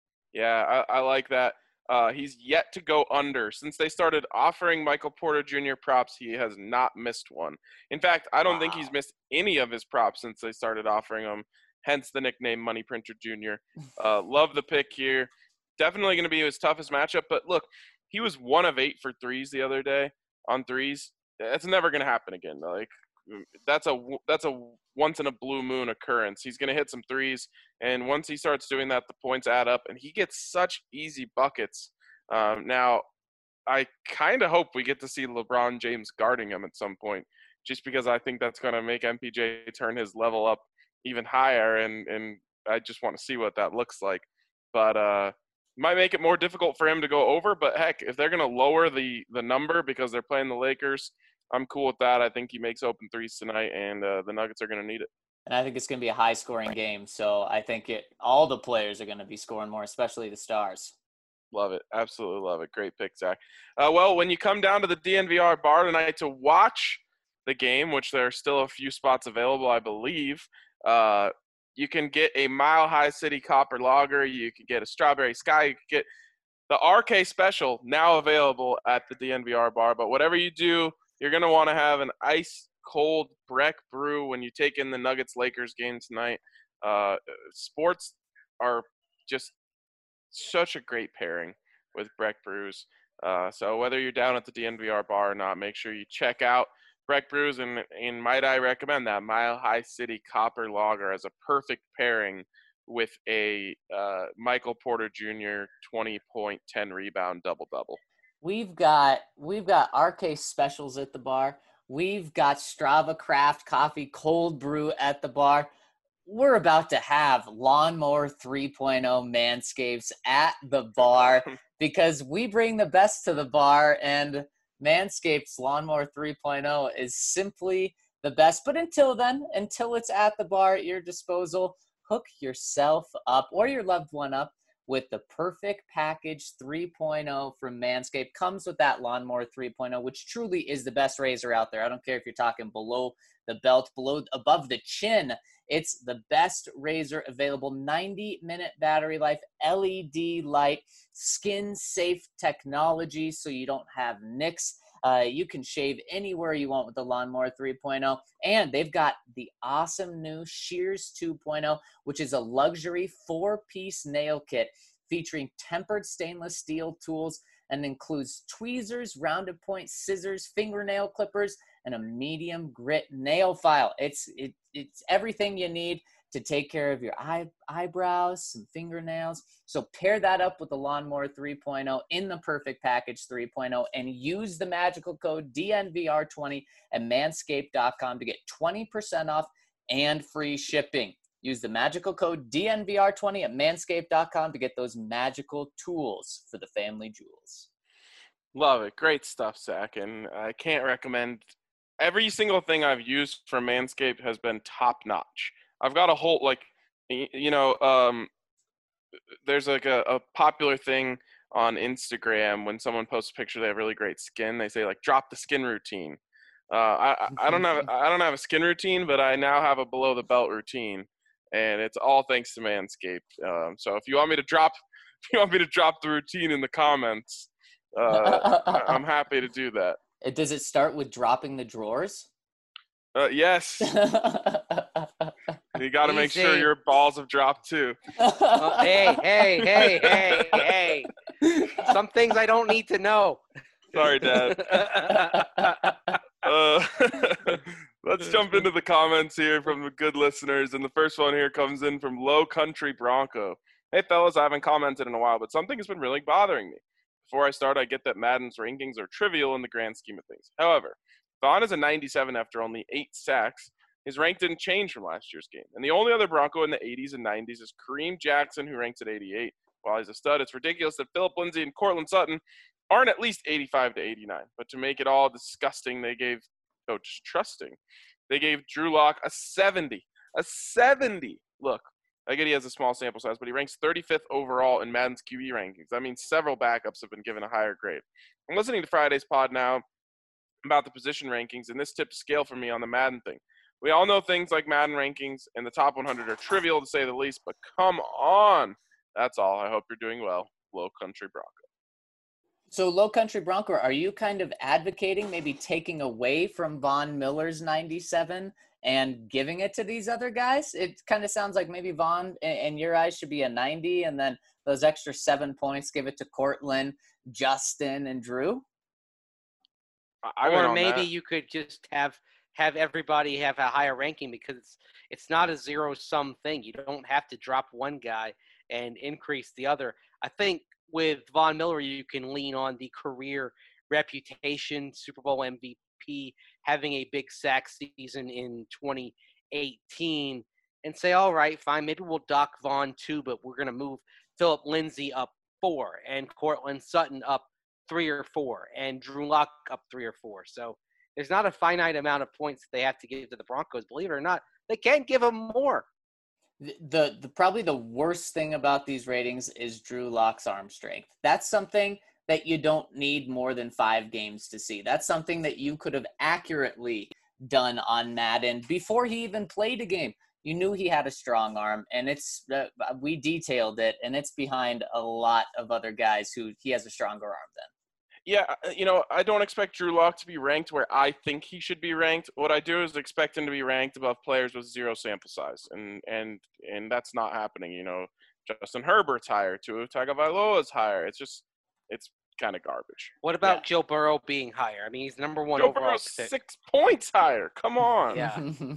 Yeah, I, I like that. Uh, he's yet to go under. Since they started offering Michael Porter Junior props, he has not missed one. In fact, I don't wow. think he's missed any of his props since they started offering them, hence the nickname Money Printer Junior Uh, love the pick here. Definitely going to be his toughest matchup. But look, he was one of eight for threes the other day on threes. That's never going to happen again. Like that's a that's a once in a blue moon occurrence. He's going to hit some threes, and once he starts doing that, the points add up, and he gets such easy buckets. Um, now, I kind of hope we get to see LeBron James guarding him at some point, just because I think that's going to make M P J turn his level up even higher, and and I just want to see what that looks like. But uh, might make it more difficult for him to go over. But heck, if they're going to lower the the number because they're playing the Lakers, I'm cool with that. I think he makes open threes tonight, and uh, the Nuggets are going to need it. And I think it's going to be a high-scoring game. So I think it all the players are going to be scoring more, especially the stars. Love it. Absolutely love it. Great pick, Zach. Uh, well, when you come down to the D N V R bar tonight to watch the game, which there are still a few spots available, I believe, uh, you can get a Mile High City Copper Lager. You can get a Strawberry Sky. You can get the R K Special now available at the D N V R bar. But whatever you do, you're going to want to have an ice-cold Breck Brew when you take in the Nuggets-Lakers game tonight. Uh, sports are just such a great pairing with Breck Brews. Uh, so whether you're down at the D N V R bar or not, make sure you check out Breck Brews. And, and might I recommend that Mile High City Copper Lager as a perfect pairing with a uh, Michael Porter Junior twenty point, ten rebound double-double. We've got we've got R K specials at the bar. We've got Strava Craft Coffee Cold Brew at the bar. We're about to have Lawnmower three point oh Manscapes at the bar because we bring the best to the bar, and Manscapes Lawnmower three point oh is simply the best. But until then, until it's at the bar at your disposal, hook yourself up or your loved one up with the Perfect Package three point oh from Manscaped. Comes with that Lawnmower three point oh, which truly is the best razor out there. I don't care if you're talking below the belt, below, above the chin. It's the best razor available. ninety minute battery life, L E D light, skin-safe technology so you don't have nicks. Uh, you can shave anywhere you want with the Lawnmower three point oh. And they've got the awesome new Shears two point oh, which is a luxury four-piece nail kit featuring tempered stainless steel tools and includes tweezers, rounded point scissors, fingernail clippers, and a medium grit nail file. It's it, it's everything you need to take care of your eye, eyebrows, some fingernails. So pair that up with the Lawnmower three point oh in the Perfect Package three point oh and use the magical code D N V R twenty at manscaped dot com to get twenty percent off and free shipping. Use the magical code D N V R twenty at manscaped dot com to get those magical tools for the family jewels. Love it. Great stuff, Zach. And I can't recommend – every single thing I've used from Manscaped has been top-notch. I've got a whole, like, you know, um, there's like a, a popular thing on Instagram when someone posts a picture they have really great skin. They say, like, drop the skin routine. Uh, I, I don't have I don't have a skin routine, but I now have a below-the-belt routine, and it's all thanks to Manscaped. Um, so if you want me to drop – if you want me to drop the routine in the comments – Uh, I'm happy to do that. Does it start with dropping the drawers? Uh, yes. You got to make sure your balls have dropped too. Oh, hey, hey, hey, hey, hey. Some things I don't need to know. Sorry, Dad. uh, Let's jump into the comments here from the good listeners. And the first one here comes in from Low Country Bronco. Hey, fellas, I haven't commented in a while, but something has been really bothering me. Before I start, I get that Madden's rankings are trivial in the grand scheme of things. However, Vaughn is a ninety-seven after only eight sacks. His rank didn't change from last year's game. And the only other Bronco in the eighties and nineties is Kareem Jackson, who ranks at eighty-eight. While he's a stud, it's ridiculous that Philip Lindsay and Cortland Sutton aren't at least eighty-five to eighty-nine. But to make it all disgusting, they gave, oh, just trusting, they gave Drew Lock a seventy. A seventy. Look, I get he has a small sample size, but he ranks thirty-fifth overall in Madden's Q B rankings. That means several backups have been given a higher grade. I'm listening to Friday's pod now about the position rankings, and this tipped a scale for me on the Madden thing. We all know things like Madden rankings and the top one hundred are trivial to say the least, but come on. That's all. I hope you're doing well. Low Country Bronco. So, Low Country Bronco, are you kind of advocating maybe taking away from Von Miller's ninety-seven and giving it to these other guys? It kind of sounds like maybe Von, in your eyes, should be a ninety, and then those extra seven points, give it to Cortland, Justin, and Drew? I or maybe that. you could just have have everybody have a higher ranking, because it's, it's not a zero-sum thing. You don't have to drop one guy and increase the other. I think with Von Miller, you can lean on the career reputation, Super Bowl M V P, having a big sack season in twenty eighteen, and say, all right, fine, maybe we'll dock Von two, but we're going to move Philip Lindsay up four and Cortland Sutton up three or four and Drew Lock up three or four. So there's not a finite amount of points that they have to give to the Broncos. Believe it or not, they can give them more. The, the the probably the worst thing about these ratings is Drew Lock's arm strength. That's something that you don't need more than five games to see. That's something that you could have accurately done on Madden before he even played a game. You knew he had a strong arm, and it's uh, we detailed it, and it's behind a lot of other guys who he has a stronger arm than. Yeah, you know, I don't expect Drew Lock to be ranked where I think he should be ranked. What I do is expect him to be ranked above players with zero sample size, and and and that's not happening. You know, Justin Herbert's higher, Tua Tagovailoa's higher. It's just, it's kind of garbage. What about Yeah. Joe Burrow being higher? I mean, he's number one Joe overall. Burrow's pick. six points higher. Come on. Yeah.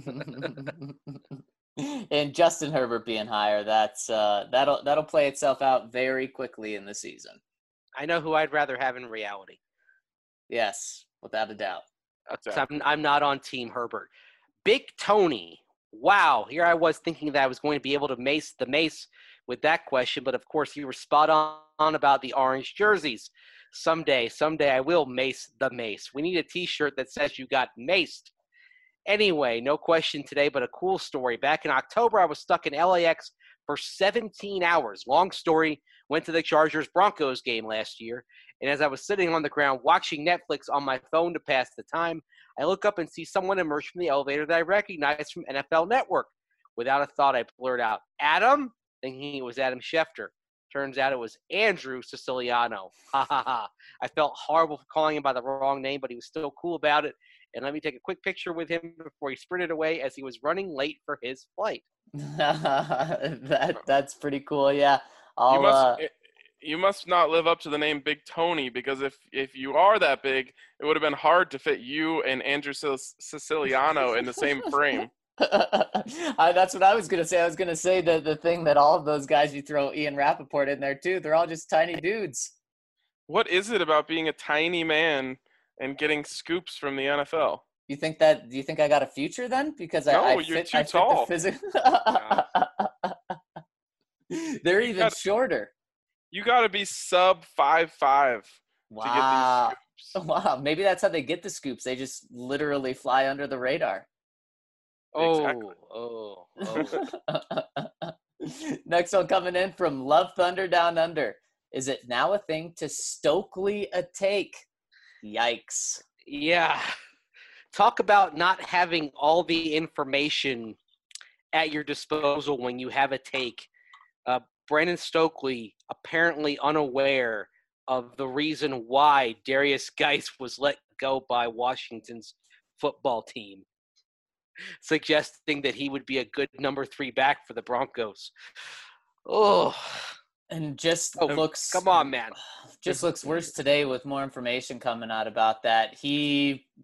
And Justin Herbert being higher, that's uh, that'll that'll play itself out very quickly in the season. I know who I'd rather have in reality. Yes, without a doubt. That's I'm, I'm not on Team Herbert. Big Tony. Wow, here I was thinking that I was going to be able to mace the mace with that question, but of course you were spot on about the orange jerseys. Someday, someday I will mace the mace. We need a T-shirt that says you got maced. Anyway, no question today, but a cool story. Back in October, I was stuck in L A X for seventeen hours. Long story, went to the Chargers-Broncos game last year, and as I was sitting on the ground watching Netflix on my phone to pass the time, I look up and see someone emerge from the elevator that I recognize from N F L Network. Without a thought, I blurt out, "Adam?" thinking it was Adam Schefter. Turns out it was Andrew Siciliano. Ha ha ha. I felt horrible for calling him by the wrong name, but he was still cool about it. And let me take a quick picture with him before he sprinted away as he was running late for his flight. that that's pretty cool. Yeah, I'll. You must, uh, you must not live up to the name Big Tony, because if, if you are that big, it would have been hard to fit you and Andrew Siciliano in the same frame. I, that's what I was gonna say. I was gonna say the the thing that all of those guys, you throw Ian Rappaport in there too. They're all just tiny dudes. What is it about being a tiny man and getting scoops from the N F L? You think that? Do you think I got a future then? Because No, I, I you're fit, too I fit tall. the physics. They're even gotta- shorter. You got to be sub five five to get Wow. these scoops. Wow. Maybe that's how they get the scoops. They just literally fly under the radar. Oh, Exactly. oh, oh. Next one coming in from Love Thunder Down Under. Is it now a thing to Stokely a take? Yikes. Yeah. Talk about not having all the information at your disposal when you have a take. Uh, Brandon Stokely apparently unaware of the reason why Darius Geis was let go by Washington's football team, suggesting that he would be a good number three back for the Broncos. Oh, And just oh looks come on, man. just looks worse today with more information coming out about that. He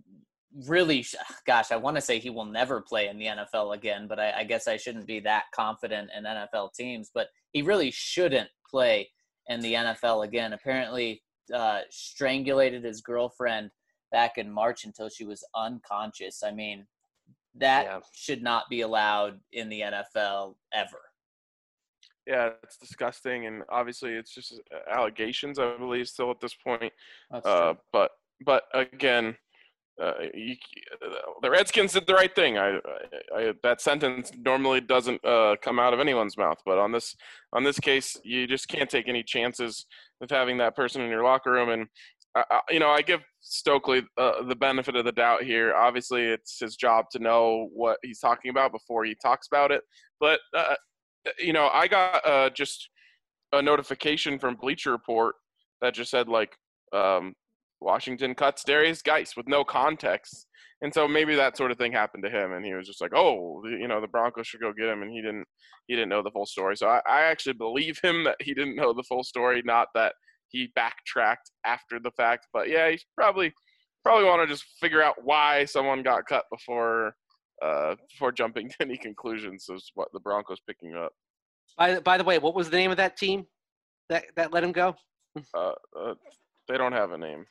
really, gosh, I want to say he will never play in the N F L again, but I, I guess I shouldn't be that confident in N F L teams. But he really shouldn't play in the N F L again. Apparently, uh, strangulated his girlfriend back in March until she was unconscious. I mean, that Yeah. should not be allowed in the N F L ever. Yeah, it's disgusting, and obviously it's just allegations, I believe, still at this point. That's Uh, true. but but again, uh, you, the Redskins did the right thing. I, I, I that sentence normally doesn't uh, come out of anyone's mouth, but on this on this case, you just can't take any chances with having that person in your locker room. And I, I, you know, I give Stokely uh, the benefit of the doubt here. Obviously, it's his job to know what he's talking about before he talks about it. But uh, you know, I got uh, just a notification from Bleacher Report that just said, like, um, Washington cuts Darius Geis with no context. And so maybe that sort of thing happened to him, and he was just like, oh, you know, the Broncos should go get him, and he didn't he didn't know the full story. So I, I actually believe him that he didn't know the full story, not that he backtracked after the fact. But, yeah, he's probably probably want to just figure out why someone got cut before – Uh, before jumping to any conclusions is what the Broncos picking up. By, by the way, what was the name of that team that, that let him go? Uh, uh, they don't have a name.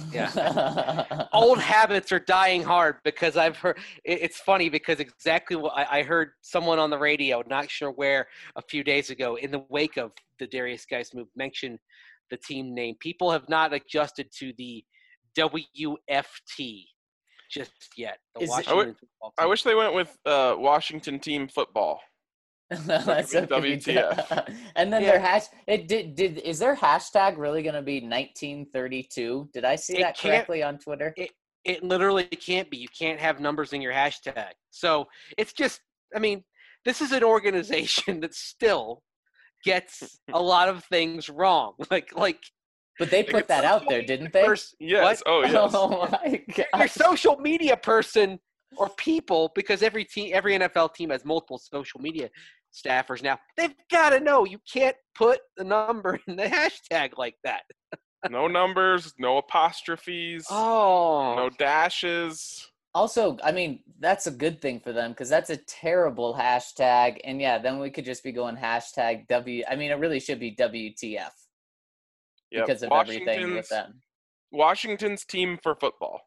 Yeah. Old habits are dying hard because I've heard it, it's funny because exactly what I, I heard someone on the radio, not sure where, a few days ago in the wake of the Darius Geis move mention the team name. People have not adjusted to the W F T just yet. The Is it- Washington I would- football I team. wish they went with uh, Washington Team Football. That's could be so W T F. And then Yeah. their hash it did did is their hashtag really going to be nineteen thirty-two? Did I see It that can't- correctly on Twitter? It literally can't be. You can't have numbers in your hashtag. So it's just, I mean, this is an organization that still gets a lot of things wrong. Like, like But they put that out there, didn't they? First, Yes. what? Oh, yes. Oh my your god. social media person or people, because every team, every N F L team has multiple social media staffers now. They've got to know you can't put the number in the hashtag like that. No numbers, no apostrophes, Oh, no dashes. Also, I mean, that's a good thing for them because that's a terrible hashtag. And yeah, then we could just be going hashtag W. I mean, it really should be W T F Yep. because of everything with Washington's- them. Washington's Team for Football.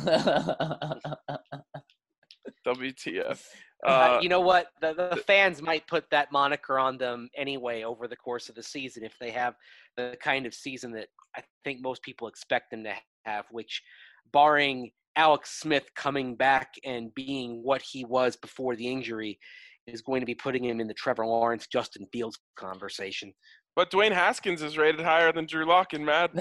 W T F. Uh, you know what? The, the fans might put that moniker on them anyway over the course of the season if they have the kind of season that I think most people expect them to have, which, barring Alex Smith coming back and being what he was before the injury, is going to be putting him in the Trevor Lawrence, Justin Fields conversation. but Dwayne Haskins is rated higher than Drew Lock in Madden.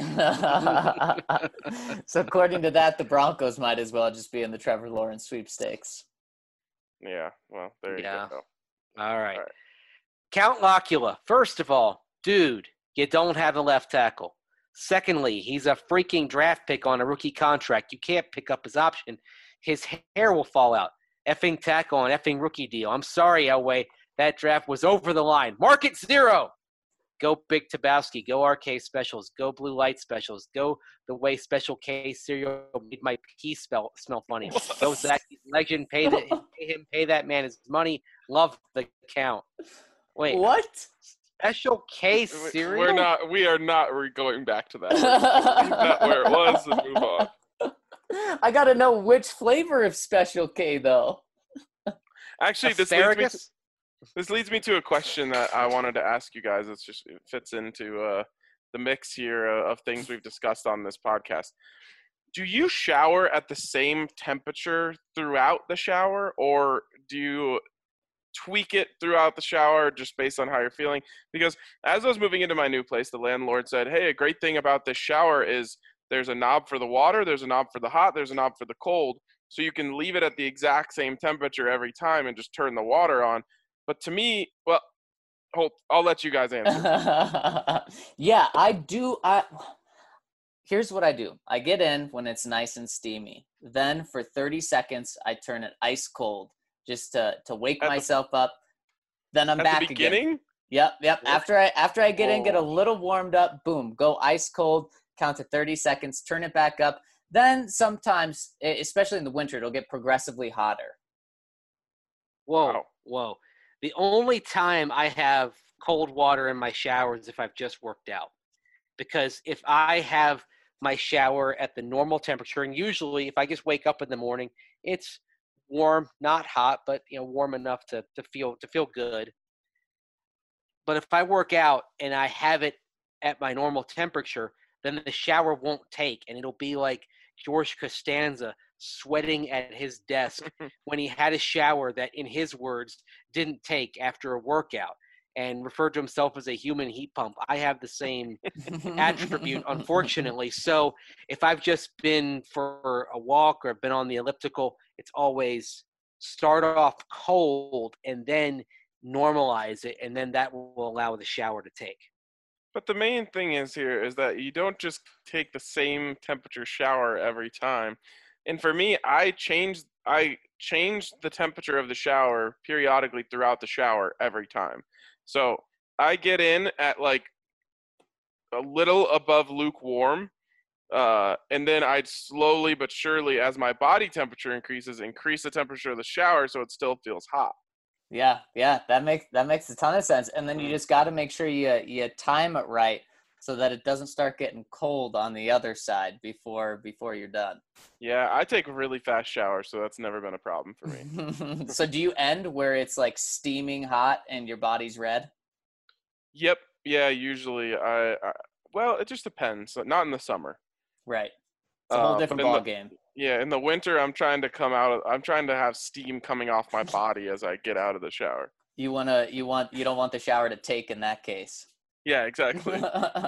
So according to that, the Broncos might as well just be in the Trevor Lawrence sweepstakes. Yeah, well, there you Yeah. go. All right. All right. Count Locula. First of all, dude, you don't have a left tackle. Secondly, he's a freaking draft pick on a rookie contract. You can't pick up his option. His hair will fall out. Effing tackle on effing rookie deal. I'm sorry, Elway. That draft was over the line. Market zero. Go Big Tabowski. Go R K Specials. Go Blue Light Specials. Go the way Special K cereal made my pee smell, smell funny. Go Zach Legend. Pay, the, pay him. Pay that man his money. Love the count. Wait. What? Special K We- cereal? We're not. We are not. We're going back to that. We're gonna leave that where it was and move on. I gotta know which flavor of Special K though. Actually, this leads, me to, Asparagus? this leads me to a question that I wanted to ask you guys. It's just it fits into uh, the mix here uh, of things we've discussed on this podcast. Do you shower at the same temperature throughout the shower, or do you tweak it throughout the shower just based on how you're feeling? Because as I was moving into my new place, the landlord said, hey, a great thing about this shower is there's a knob for the water, there's a knob for the hot, there's a knob for the cold. So you can leave it at the exact same temperature every time and just turn the water on. But to me, well, hold, I'll let you guys answer. Yeah, I do. I Here's what I do. I get in when it's nice and steamy. Then for thirty seconds, I turn it ice cold just to, to wake At the- myself up. Then I'm At back the beginning, again. Yep, yep. After I after I get in, get a Whoa. little warmed up, boom, go ice cold, count to thirty seconds, turn it back up. Then sometimes, e- especially in the winter, it'll get progressively hotter. Whoa, Wow. whoa. The only time I have cold water in my shower is if I've just worked out. Because if I have my shower at the normal temperature, and usually if I just wake up in the morning, it's warm, not hot, but you know, warm enough to, to feel to feel good. But if I work out and I have it at my normal temperature, then the shower won't take, and it'll be like George Costanza sweating at his desk when he had a shower that, in his words, didn't take after a workout, and referred to himself as a human heat pump. I have the same attribute, unfortunately. So if I've just been for a walk or been on the elliptical, it's always start off cold and then normalize it, and then that will allow the shower to take. But the main thing is here is that you don't just take the same temperature shower every time. And for me, I change I change the temperature of the shower periodically throughout the shower every time. So I get in at like a little above lukewarm, uh, and then I'd slowly but surely, as my body temperature increases, increase the temperature of the shower so it still feels hot. Yeah, yeah, that makes that makes a ton of sense. And then you Mhm. just got to make sure you you time it right so that it doesn't start getting cold on the other side before before you're done. Yeah, I take really fast showers, so that's never been a problem for me. So do you end where it's like steaming hot and your body's red? Yep. Yeah, usually I, I well, it just depends. Not in the summer. Right. It's a whole Uh, but different in the ball game. yeah, in the winter, I'm trying to come out of, I'm trying to have steam coming off my body as I get out of the shower. You wanna you want you don't want the shower to take in that case. Yeah, exactly.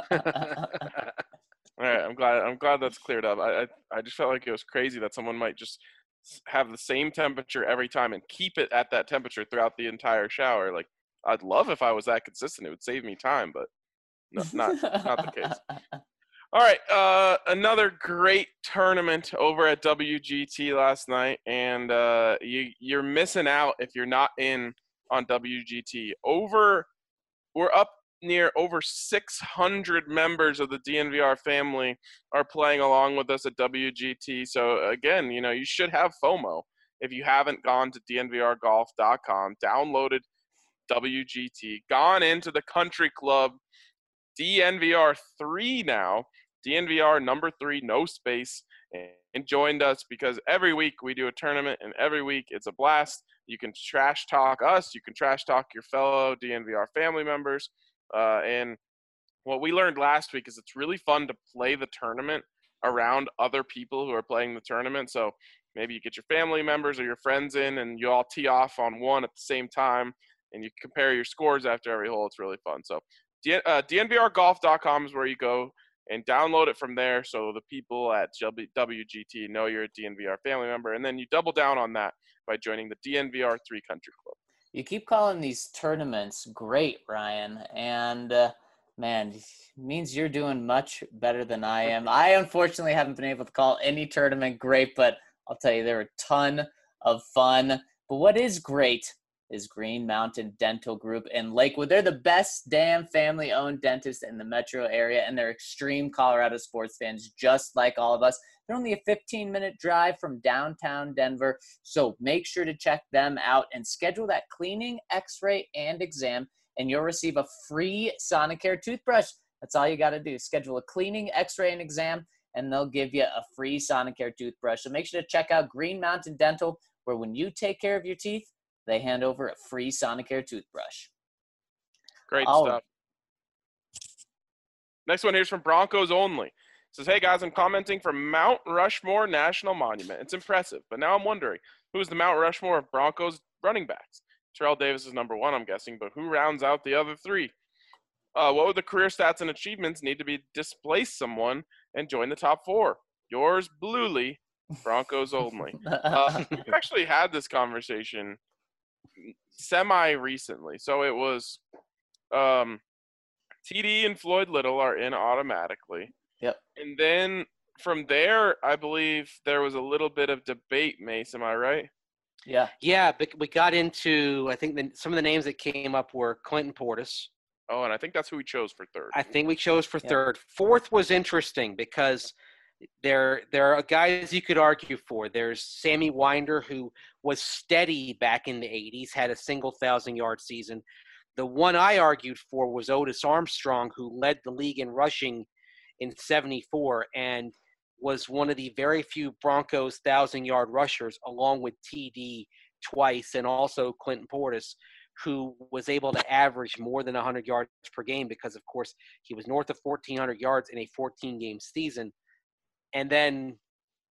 All right, I'm glad I'm glad that's cleared up. I, I I just felt like it was crazy that someone might just s- have the same temperature every time and keep it at that temperature throughout the entire shower. Like, I'd love if I was that consistent. It would save me time, but no, not not the case. All right, uh, another great tournament over at W G T last night, and uh, you you're missing out if you're not in on W G T. Over, we're up near over six hundred members of the D N V R family are playing along with us at W G T. So again, you know, you should have FOMO if you haven't gone to D N V R golf dot com, downloaded W G T, gone into the country club D N V R three now, D N V R number three, no space, and joined us because every week we do a tournament, and every week it's a blast. You can trash talk us, you can trash talk your fellow D N V R family members, uh, and what we learned last week is it's really fun to play the tournament around other people who are playing the tournament. So maybe you get your family members or your friends in, and you all tee off on one at the same time, and you compare your scores after every hole. It's really fun. So D- uh, D N V R golf dot com is where you go and download it from there, so the people at W G T know you're a D N V R family member, and then you double down on that by joining the D N V R three Country Club. You keep calling these tournaments great, Ryan, and uh, man, it means you're doing much better than I am. I unfortunately haven't been able to call any tournament great, but I'll tell you, they're a ton of fun. But what is great is Green Mountain Dental Group in Lakewood. They're the best damn family-owned dentist in the metro area, and they're extreme Colorado sports fans just like all of us. They're only a fifteen-minute drive from downtown Denver, so make sure to check them out and schedule that cleaning, x-ray, and exam, and you'll receive a free Sonicare toothbrush. That's all you got to do. Schedule a cleaning, x-ray, and exam, and they'll give you a free Sonicare toothbrush. So make sure to check out Green Mountain Dental, where when you take care of your teeth, they hand over a free Sonicare toothbrush. Great Oh. stuff. Next one here's from Broncos Only. It says, hey guys, I'm commenting from Mount Rushmore National Monument. It's impressive, but now I'm wondering, who is the Mount Rushmore of Broncos running backs? Terrell Davis is number one, I'm guessing, but who rounds out the other three? Uh, what would the career stats and achievements need to be displace someone and join the top four? Yours, Bluely, Broncos Only. Uh, we've actually had this conversation semi-recently. So it was um, T D and Floyd Little are in automatically. Yep. And then from there, I believe there was a little bit of debate, Mace. Am I right? Yeah. Yeah, but we got into, I think the, some of the names that came up were Clinton Portis. Oh, and I think that's who we chose for third. I think we chose for Yeah. third. Fourth was interesting because there there are guys you could argue for. There's Sammy Winder, who was steady back in the eighties, had a single thousand-yard season. The one I argued for was Otis Armstrong, who led the league in rushing in seventy-four and was one of the very few Broncos thousand-yard rushers, along with T D twice and also Clinton Portis, who was able to average more than one hundred yards per game because, of course, he was north of fourteen hundred yards in a fourteen-game season. And then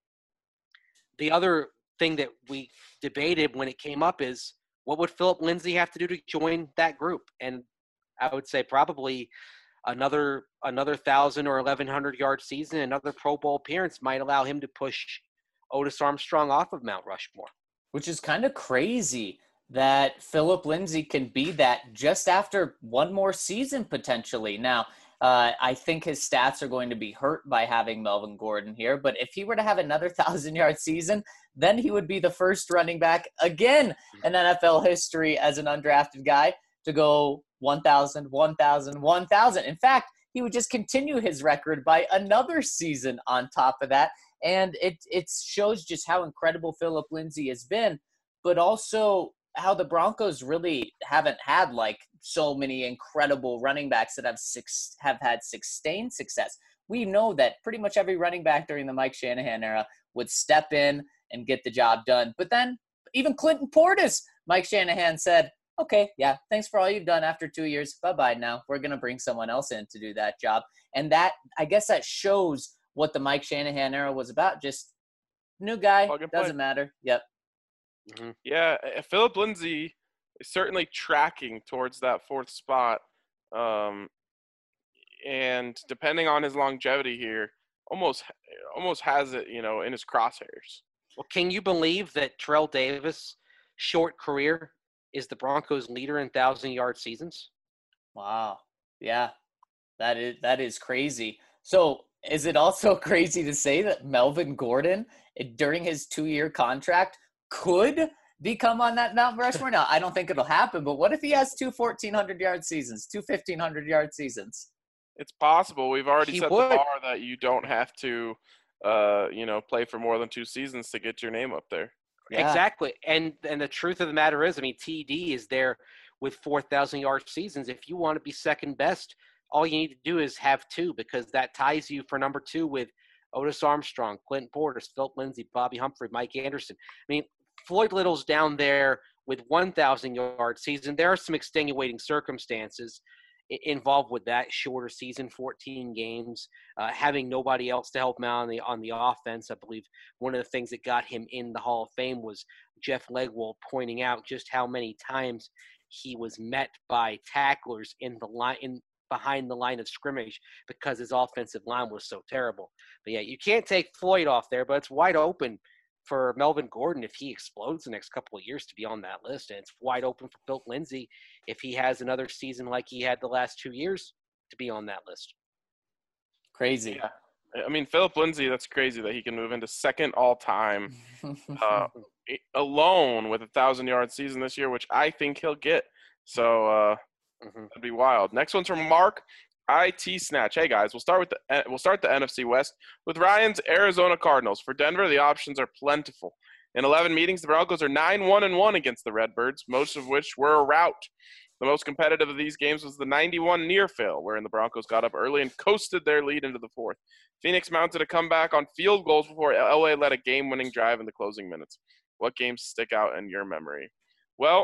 the other thing that we debated when it came up is, what would Philip Lindsay have to do to join that group? And I would say probably another another one thousand or eleven hundred yard season, another Pro Bowl appearance might allow him to push Otis Armstrong off of Mount Rushmore. Which is kind of crazy that Philip Lindsay can be that just after one more season potentially. Now, uh, I think his stats are going to be hurt by having Melvin Gordon here, but if he were to have another thousand-yard season, then he would be the first running back again in N F L history as an undrafted guy to go one thousand, one thousand, one thousand. In fact, he would just continue his record by another season on top of that. And it it shows just how incredible Philip Lindsay has been, but also how the Broncos really haven't had like so many incredible running backs that have six have had sustained success. We know that pretty much every running back during the Mike Shanahan era would step in and get the job done. But then even Clinton Portis, Mike Shanahan said, okay, yeah, thanks for all you've done after two years. Bye-bye now. We're going to bring someone else in to do that job. And that, I guess that shows what the Mike Shanahan era was about. Just new guy, doesn't matter. Yep. Mm-hmm. Yeah, Philip Lindsay is certainly tracking towards that fourth spot. Um, and depending on his longevity here, almost almost has it, you know, in his crosshairs. Well, can you believe that Terrell Davis' short career is the Broncos' leader in thousand-yard seasons? Wow. Yeah, that is that is crazy. So is it also crazy to say that Melvin Gordon, during his two-year contract, could become on that Mount Rushmore? Now, I don't think it'll happen, but what if he has two fourteen hundred-yard seasons, two fifteen hundred-yard seasons? It's possible. We've already He set would. the bar that you don't have to, uh, you know, play for more than two seasons to get your name up there. Yeah. Exactly. And and the truth of the matter is, I mean, T D is there with four thousand-yard seasons. If you want to be second best, all you need to do is have two, because that ties you for number two with Otis Armstrong, Clinton Portis, Philip Lindsay, Bobby Humphrey, Mike Anderson. I mean, Floyd Little's down there with one thousand-yard season. There are some extenuating circumstances involved with that shorter season, fourteen games, uh, having nobody else to help him out on the on the offense. I believe one of the things that got him in the Hall of Fame was Jeff Legwold pointing out just how many times he was met by tacklers in the line in behind the line of scrimmage because his offensive line was so terrible. But yeah, you can't take Floyd off there, but it's wide open for Melvin Gordon if he explodes the next couple of years to be on that list. And it's wide open for Philip Lindsay if he has another season like he had the last two years to be on that list. Crazy. Yeah. I mean, Philip Lindsay, that's crazy that he can move into second all-time uh, alone with a thousand-yard season this year, which I think he'll get. So uh, mm-hmm. that'd be wild. Next one's from Mark I T Snatch. Hey guys, we'll start with the we'll start the N F C West with Ryan's Arizona Cardinals. For Denver, the options are plentiful. In eleven meetings, the Broncos are nine one and one against the Redbirds, most of which were a rout. The most competitive of these games was the ninety-one near fail, wherein the Broncos got up early and coasted their lead into the fourth. Phoenix mounted a comeback on field goals before L A led a game-winning drive in the closing minutes. What games stick out in your memory? Well,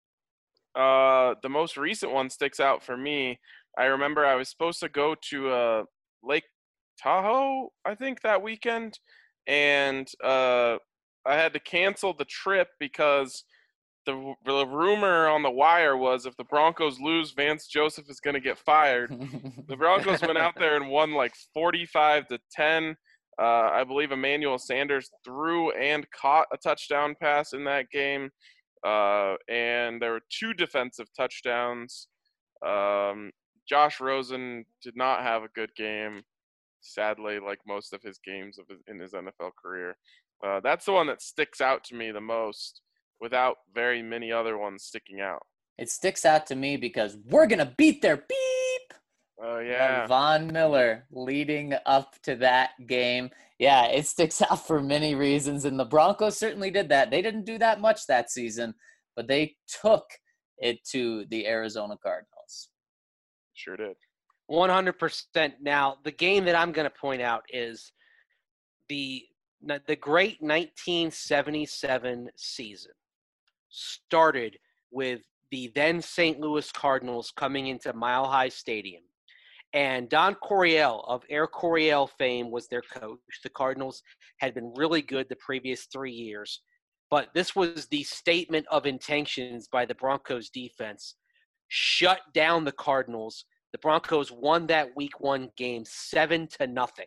uh, the most recent one sticks out for me. I remember I was supposed to go to uh, Lake Tahoe, I think, that weekend, and uh, I had to cancel the trip because the, the rumor on the wire was if the Broncos lose, Vance Joseph is going to get fired. The Broncos went out there and won like forty-five to ten. Uh, I believe Emmanuel Sanders threw and caught a touchdown pass in that game, uh, and there were two defensive touchdowns. Um, Josh Rosen did not have a good game, sadly, like most of his games of his, in his N F L career. Uh, that's the one that sticks out to me the most, without very many other ones sticking out. It sticks out to me because we're going to beat their beep. Oh, yeah. Von Miller leading up to that game. Yeah, it sticks out for many reasons, and the Broncos certainly did that. They didn't do that much that season, but they took it to the Arizona Cardinals. Sure did. one hundred percent. Now, the game that I'm going to point out is the the great nineteen seventy-seven season started with the then Saint Louis Cardinals coming into Mile High Stadium. And Don Coryell of Air Coryell fame was their coach. The Cardinals had been really good the previous three years. But this was the statement of intentions by the Broncos defense. Shut down the Cardinals. The Broncos won that week one game seven to nothing.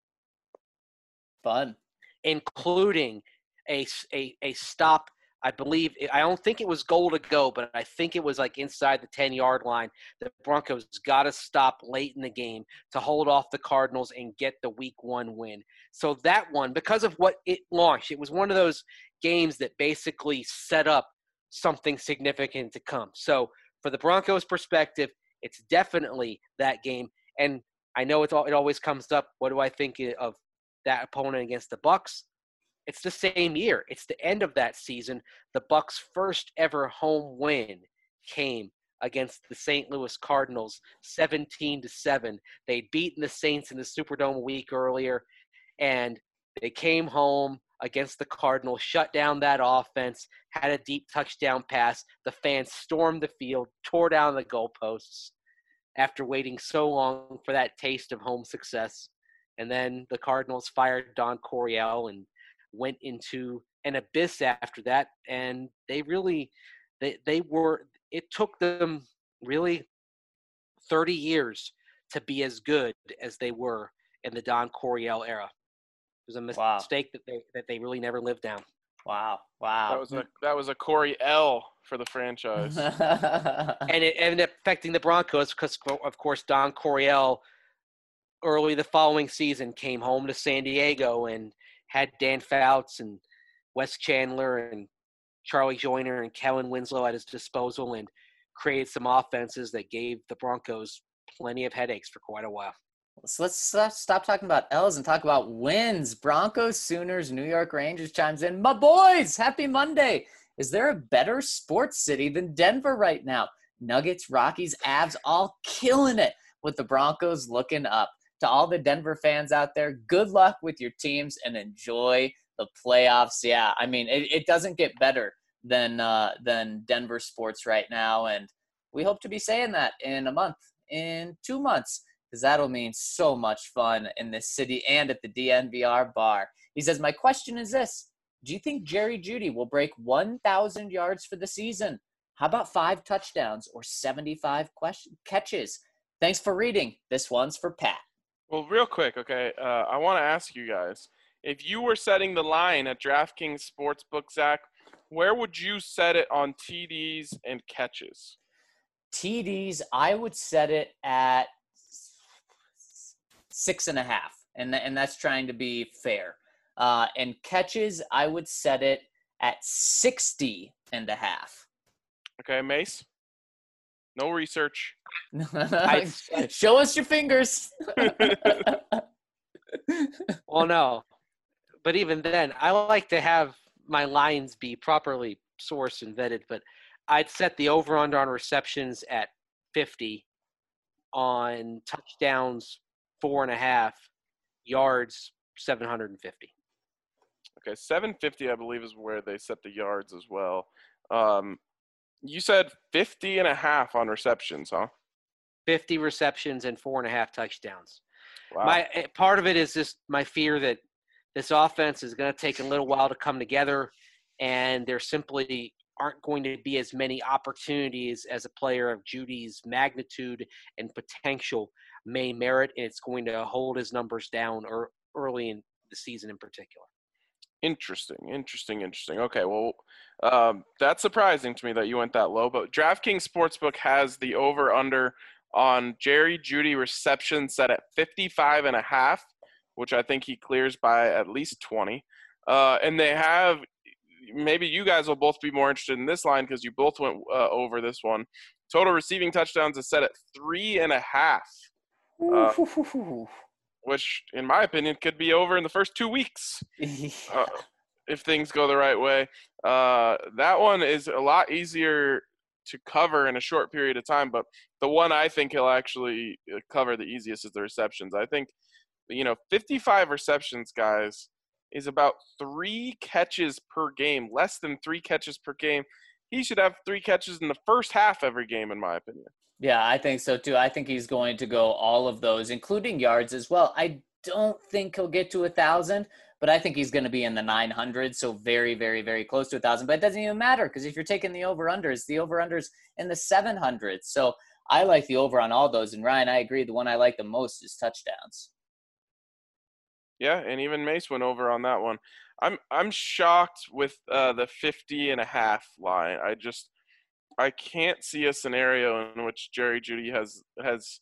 Fun. Including a, a, a stop. I believe – I don't think it was goal to go, but I think it was like inside the ten-yard line. The Broncos got to stop late in the game to hold off the Cardinals and get the week one win. So that one, because of what it launched, it was one of those games that basically set up something significant to come. So for the Broncos' perspective, it's definitely that game. And I know it's all, it always comes up, what do I think of that opponent against the Bucs? It's the same year. It's the end of that season. The Bucs' first ever home win came against the Saint Louis Cardinals, seventeen to seven. They'd beaten the Saints in the Superdome a week earlier, and they came home against the Cardinals, shut down that offense, had a deep touchdown pass. The fans stormed the field, tore down the goalposts after waiting so long for that taste of home success. And then the Cardinals fired Don Coryell and went into an abyss after that, and they really they they were it took them really thirty years to be as good as they were in the Don Coryell era. It was a mis- Wow. mistake that they that they really never lived down. Wow. Wow. That was a that was a Corey L for the franchise. And it ended up affecting the Broncos because, of course, Don Coryell early the following season came home to San Diego and had Dan Fouts and Wes Chandler and Charlie Joyner and Kellen Winslow at his disposal and created some offenses that gave the Broncos plenty of headaches for quite a while. So let's stop, stop talking about L's and talk about wins. Broncos, Sooners, New York Rangers chimes in. My boys, happy Monday. Is there a better sports city than Denver right now? Nuggets, Rockies, Avs, all killing it with the Broncos looking up. To all the Denver fans out there, good luck with your teams and enjoy the playoffs. Yeah, I mean, it, it doesn't get better than uh, than Denver sports right now, and we hope to be saying that in a month, in two months, because that'll mean so much fun in this city and at the D N V R bar. He says, my question is this. Do you think Jerry Jeudy will break one thousand yards for the season? How about five touchdowns or seventy-five question- catches? Thanks for reading. This one's for Pat. Well, real quick, okay, uh, I want to ask you guys, if you were setting the line at DraftKings Sportsbook, Zach, where would you set it on T Ds and catches? T Ds, I would set it at six and a half, and, and that's trying to be fair. Uh, and catches, I would set it at sixty and a half. Okay, Mace? No research. Show us your fingers. Well, no. But even then, I like to have my lines be properly sourced and vetted, but I'd set the over-under on receptions at fifty, on touchdowns four and a half, yards seven hundred fifty. Okay, seven fifty, I believe, is where they set the yards as well. Um, you said fifty and a half on receptions, huh? fifty receptions and four and a half touchdowns. Wow. My part of it is just my fear that this offense is going to take a little while to come together, and there simply aren't going to be as many opportunities as a player of Jeudy's magnitude and potential may merit, and it's going to hold his numbers down or early in the season in particular. Interesting, interesting, interesting. Okay, well, um, that's surprising to me that you went that low, but DraftKings Sportsbook has the over-under on Jerry Jeudy reception set at fifty-five and a half, which I think he clears by at least twenty. Uh, and they have – maybe you guys will both be more interested in this line because you both went uh, over this one. Total receiving touchdowns is set at three and a half. Uh, which in my opinion could be over in the first two weeks Yeah. uh, if things go the right way. Uh, that one is a lot easier to cover in a short period of time, but the one I think he'll actually cover the easiest is the receptions. I think, you know, fifty-five receptions, guys, is about three catches per game, less than three catches per game. He should have three catches in the first half every game, in my opinion. Yeah, I think so too. I think he's going to go all of those, including yards as well. I don't think he'll get to a thousand, but I think he's going to be in the nine hundreds, so very, very, very close to a thousand. But it doesn't even matter because if you're taking the over-unders, the over-unders in the seven hundreds. So I like the over on all those. And Ryan, I agree. The one I like the most is touchdowns. Yeah, and even Mace went over on that one. I'm I'm shocked with uh, the fifty and a half line. I just I can't see a scenario in which Jerry Jeudy has has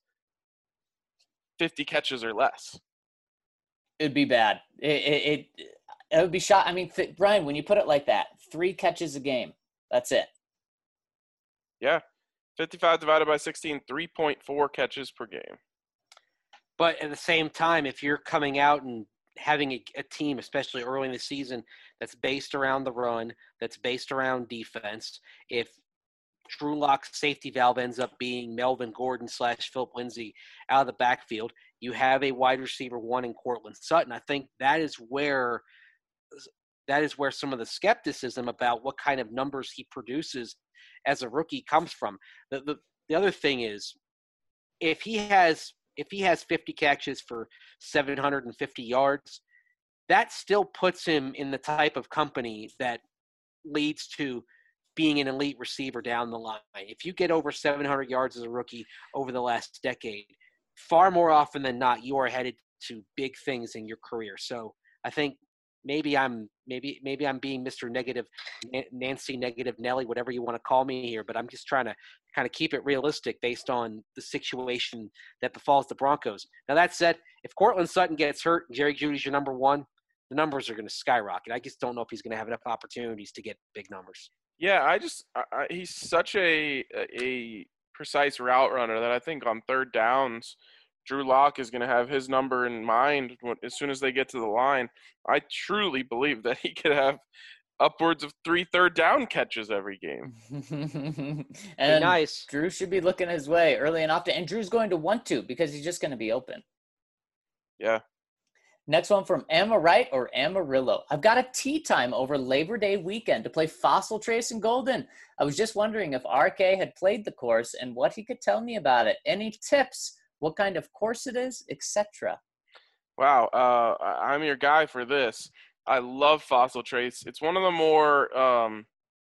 fifty catches or less. It'd be bad. It it, it, it would be shot. I mean, th- Ryan, when you put it like that, three catches a game. That's it. Yeah, fifty-five divided by sixteen, three point four catches per game. But at the same time, if you're coming out and having a, a team, especially early in the season, that's based around the run, that's based around defense, if Drew Lock's safety valve ends up being Melvin Gordon slash Philip Lindsay out of the backfield, you have a wide receiver one in Cortland Sutton. I think that is where that is where some of the skepticism about what kind of numbers he produces as a rookie comes from. The the, the other thing is, if he has if he has fifty catches for seven hundred fifty yards, that still puts him in the type of company that leads to being an elite receiver down the line. If you get over seven hundred yards as a rookie over the last decade, far more often than not, you are headed to big things in your career. So I think maybe I'm maybe maybe I'm being Mister Negative, Nancy Negative Nelly, whatever you want to call me here, but I'm just trying to kind of keep it realistic based on the situation that befalls the Broncos. Now that said, if Cortland Sutton gets hurt and Jerry Jeudy's your number one, the numbers are going to skyrocket. I just don't know if he's going to have enough opportunities to get big numbers. Yeah, I just I, I, he's such a a precise route runner that I think on third downs, Drew Lock is going to have his number in mind when, as soon as they get to the line. I truly believe that he could have upwards of three third down catches every game. And nice. Drew should be looking his way early and often. And Drew's going to want to because he's just going to be open. Yeah. Next one from Amorite or Amarillo. I've got a tea time over Labor Day weekend to play Fossil Trace and Golden. I was just wondering if R K had played the course and what he could tell me about it. Any tips? What kind of course it is, et cetera. Wow, uh, I'm your guy for this. I love Fossil Trace. It's one of the more um,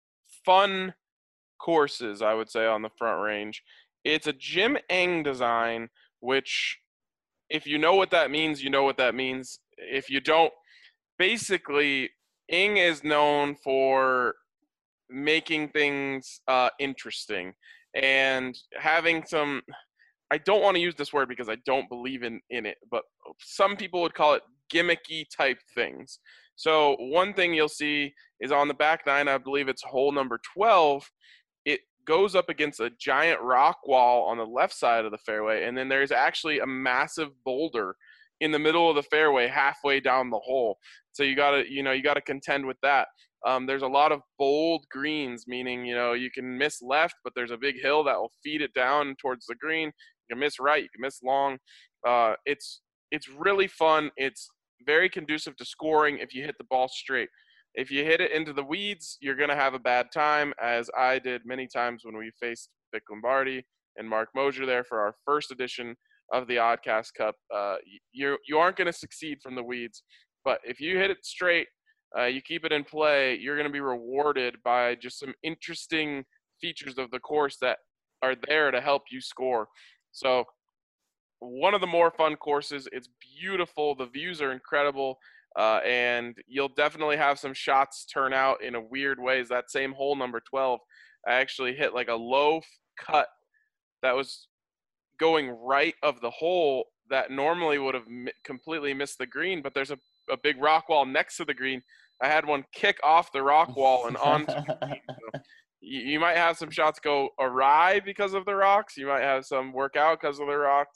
fun courses, I would say, on the Front Range. It's a Jim Eng design, which, if you know what that means, you know what that means. If you don't, basically, Eng is known for making things uh, interesting and having some – I don't want to use this word because I don't believe in, in it, but some people would call it gimmicky type things. So one thing you'll see is on the back nine, I believe it's hole number twelve, it goes up against a giant rock wall on the left side of the fairway, and then there's actually a massive boulder in the middle of the fairway halfway down the hole. So you gotta, you know, you gotta contend with that. Um, there's a lot of bold greens, meaning, you know, you can miss left, but there's a big hill that will feed it down towards the green. You can miss right, you can miss long. Uh, it's it's really fun. It's very conducive to scoring if you hit the ball straight. If you hit it into the weeds, you're going to have a bad time, as I did many times when we faced Vic Lombardi and Mark Mosier there for our first edition of the Oddcast Cup. Uh, you you aren't going to succeed from the weeds, but if you hit it straight, uh, you keep it in play, you're going to be rewarded by just some interesting features of the course that are there to help you score. So one of the more fun courses. It's beautiful. The views are incredible. Uh, and you'll definitely have some shots turn out in a weird ways. That same hole number twelve, I actually hit like a low cut that was going right of the hole that normally would have m- completely missed the green, but there's a, a big rock wall next to the green. I had one kick off the rock wall and onto the green. So you, you might have some shots go awry because of the rocks. You might have some work out because of the rocks.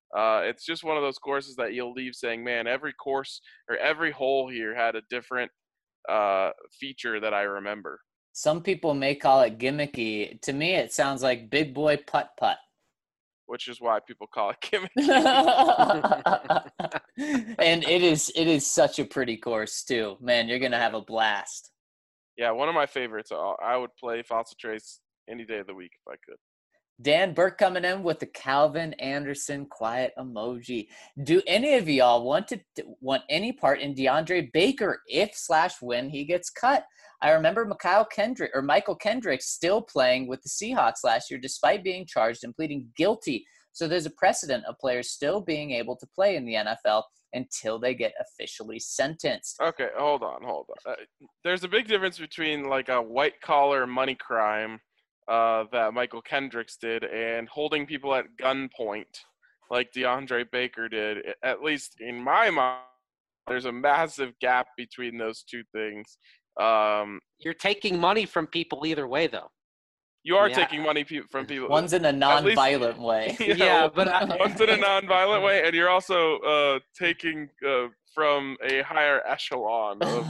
Uh, it's just one of those courses that you'll leave saying, man, every course or every hole here had a different uh, feature that I remember. Some people may call it gimmicky. To me, it sounds like big boy putt putt. Which is why people call it gimmicky. And it is it is such a pretty course too. Man, you're gonna have a blast. Yeah, one of my favorites. I would play Fossil Trace any day of the week if I could. Dan Burke coming in with the Calvin Anderson quiet emoji. Do any of y'all want to want any part in DeAndre Baker if slash when he gets cut? I remember Michael Kendrick or Michael Kendrick still playing with the Seahawks last year despite being charged and pleading guilty. So there's a precedent of players still being able to play in the N F L until they get officially sentenced. Okay, hold on, hold on. Uh, there's a big difference between like a white collar money crime uh, that Michael Kendricks did and holding people at gunpoint like DeAndre Baker did. At least in my mind, there's a massive gap between those two things. Um, You're taking money from people either way, though. You are yeah. taking money pe- from people. One's in a non-violent least, way. Yeah, yeah but I, one's in a non-violent way, and you're also uh, taking uh, from a higher echelon. Of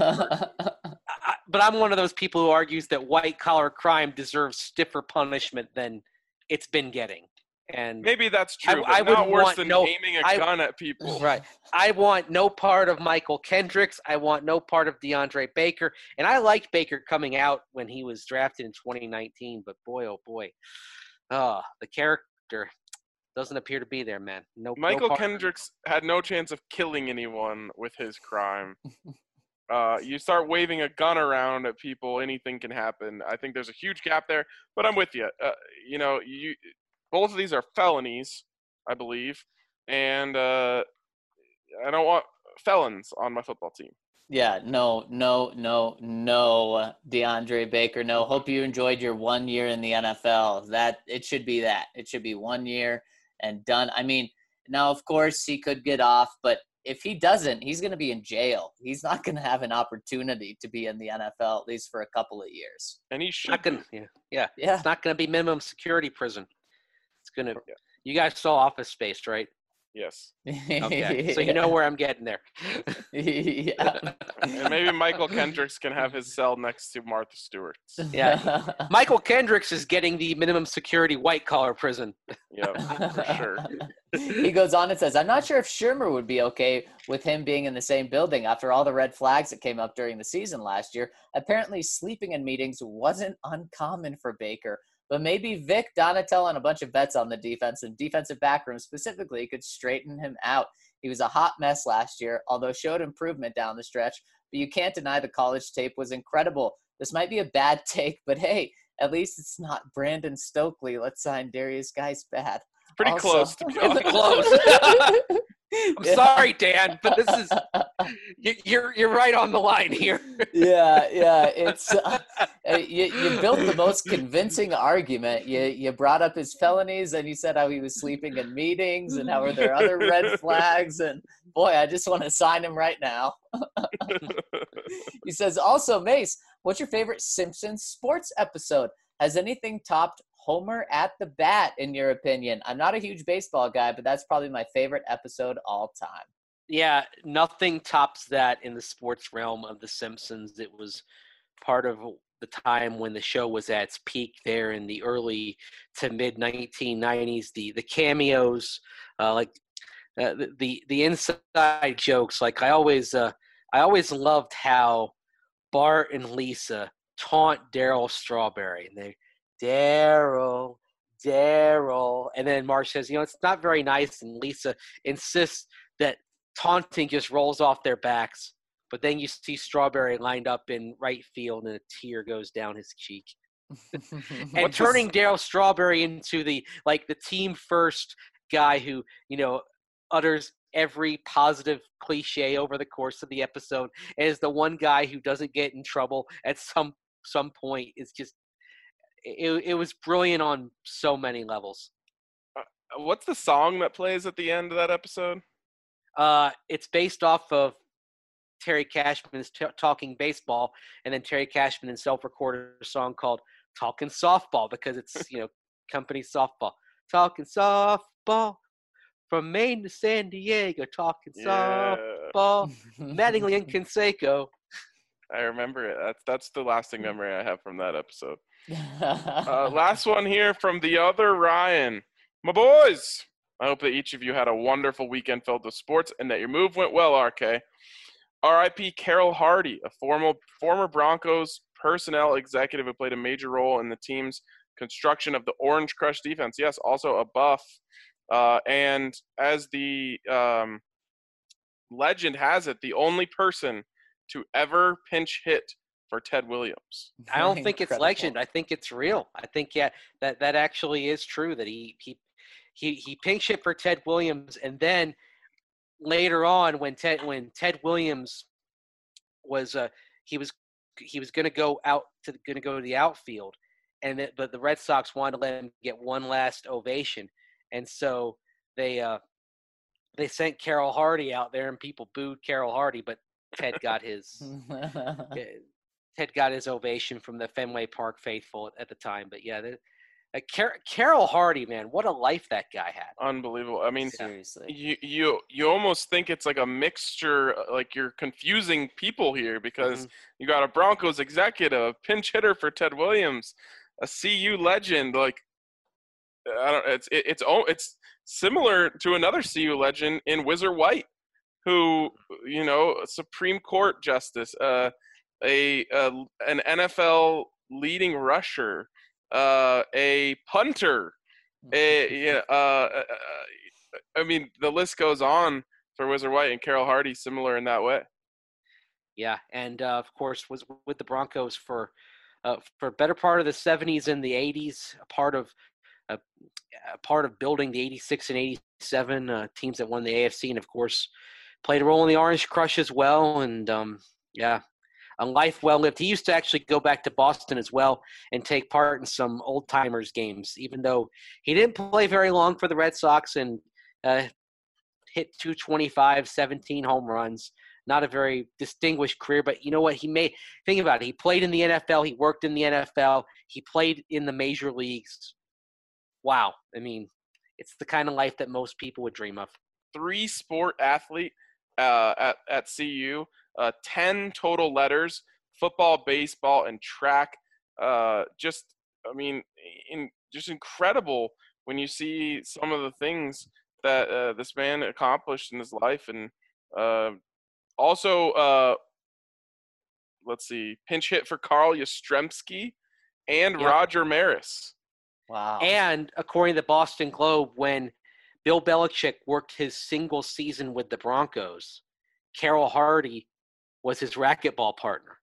I, but I'm one of those people who argues that white-collar crime deserves stiffer punishment than it's been getting. And maybe that's true, I, but I not worse than no, aiming a I, gun at people. Right. I want no part of Michael Kendricks. I want no part of DeAndre Baker. And I liked Baker coming out when he was drafted in twenty nineteen, but boy, oh boy, oh, the character doesn't appear to be there, man. No. Michael no Kendricks had no chance of killing anyone with his crime. Uh, you start waving a gun around at people, anything can happen. I think there's a huge gap there, but I'm with you. Uh, you know, you. Both of these are felonies, I believe, and uh, I don't want felons on my football team. Yeah, no, no, no, no, DeAndre Baker. No, hope you enjoyed your one year in the N F L. That it should be that. It should be one year and done. I mean, now of course he could get off, but if he doesn't, he's going to be in jail. He's not going to have an opportunity to be in the N F L at least for a couple of years. And he should. Not gonna, yeah, yeah, yeah. It's not going to be minimum security prison. It's gonna. Yeah. You guys saw Office Space, right? Yes. Okay. So you know where I'm getting there. Yeah. And maybe Michael Kendricks can have his cell next to Martha Stewart's. Yeah. Michael Kendricks is getting the minimum security white collar prison. Yeah, for sure. He goes on and says, I'm not sure if Shermer would be okay with him being in the same building after all the red flags that came up during the season last year. Apparently sleeping in meetings wasn't uncommon for Baker. But maybe Vic, Donatello, and a bunch of vets on the defense and defensive backroom specifically could straighten him out. He was a hot mess last year, although showed improvement down the stretch. But you can't deny the college tape was incredible. This might be a bad take, but hey, at least it's not Brandon Stokely. Let's sign Darius Geis bad. Pretty also, close to be honest. Close. I'm yeah. sorry, Dan, but this is you, you're you're right on the line here. yeah, yeah. It's uh, you, you built the most convincing argument. You you brought up his felonies and you said how he was sleeping in meetings and how are there other red flags and boy, I just want to sign him right now. He says also, Mace, what's your favorite Simpsons sports episode? Has anything topped Homer at the bat, in your opinion? I'm not a huge baseball guy, but that's probably my favorite episode all time. Yeah, nothing tops that in the sports realm of The Simpsons. It was part of the time when the show was at its peak there in the early to mid nineteen nineties. The the cameos, uh, like uh, the, the the inside jokes. Like I always uh, I always loved how Bart and Lisa taunt Daryl Strawberry, and they. Daryl, Daryl. And then Marge says, you know, it's not very nice. And Lisa insists that taunting just rolls off their backs. But then you see Strawberry lined up in right field and a tear goes down his cheek. And turning Daryl Strawberry into the, like, the team first guy who, you know, utters every positive cliche over the course of the episode and is the one guy who doesn't get in trouble at some some point is just It, it was brilliant on so many levels. Uh, what's the song that plays at the end of that episode? Uh, it's based off of Terry Cashman's t- Talking Baseball, and then Terry Cashman himself recorded a song called Talking Softball because it's, you know, company softball. Talking softball, from Maine to San Diego, talking Yeah, softball. Mattingly and Canseco. I remember it. That's that's the lasting memory I have from that episode. Uh, last one here from the other Ryan. My boys, I hope that each of you had a wonderful weekend filled with sports and that your move went well, R K. R I P Carroll Hardy, a former, former Broncos personnel executive who played a major role in the team's construction of the Orange Crush defense. Yes, also a Buff. Uh, and as the um, legend has it, the only person to ever pinch hit for Ted Williams. I don't think it's Incredible. legend. I think it's real. I think yeah, that that actually is true. That he he he he pinch hit for Ted Williams, and then later on, when Ted when Ted Williams was uh he was he was going to go out to going to go to the outfield, and it, but the Red Sox wanted to let him get one last ovation, and so they uh they sent Carroll Hardy out there, and people booed Carroll Hardy, but Ted got his. Ted got his ovation from the Fenway Park faithful at the time. But yeah, the, uh, Car- Carroll Hardy, man, what a life that guy had. Unbelievable. I mean, Seriously. you you you almost think it's like a mixture, like you're confusing people here because Mhm. you got a Broncos executive, a pinch hitter for Ted Williams, a C U legend. Like, I don't. It's it, it's oh, it's similar to another C U legend in Whizzer White, who you know, a Supreme Court justice, uh, a, a an N F L leading rusher, uh, a punter. A, yeah, uh, uh, I mean, the list goes on for Whizzer White, and Carroll Hardy similar in that way. Yeah, and uh, of course was with the Broncos for uh, for a better part of the seventies and the eighties, a part of uh, a part of building the eighty-six and eighty-seven uh, teams that won the A F C, and of course played a role in the Orange Crush as well. And um, yeah, a life well lived. He used to actually go back to Boston as well and take part in some old timers games, even though he didn't play very long for the Red Sox and uh, hit two twenty-five, seventeen home runs. Not a very distinguished career, but you know what? He made think about it. He played in the N F L. He worked in the N F L. He played in the major leagues. Wow. I mean, it's the kind of life that most people would dream of. Three sport athlete uh, at at C U, uh, ten total letters: football, baseball, and track. Uh, just, I mean, in just incredible when you see some of the things that uh, this man accomplished in his life, and uh, also, uh, let's see, pinch hit for Carl Yastrzemski and Yeah. Roger Maris. Wow. And according to the Boston Globe, when Bill Belichick worked his single season with the Broncos, Carroll Hardy was his racquetball partner.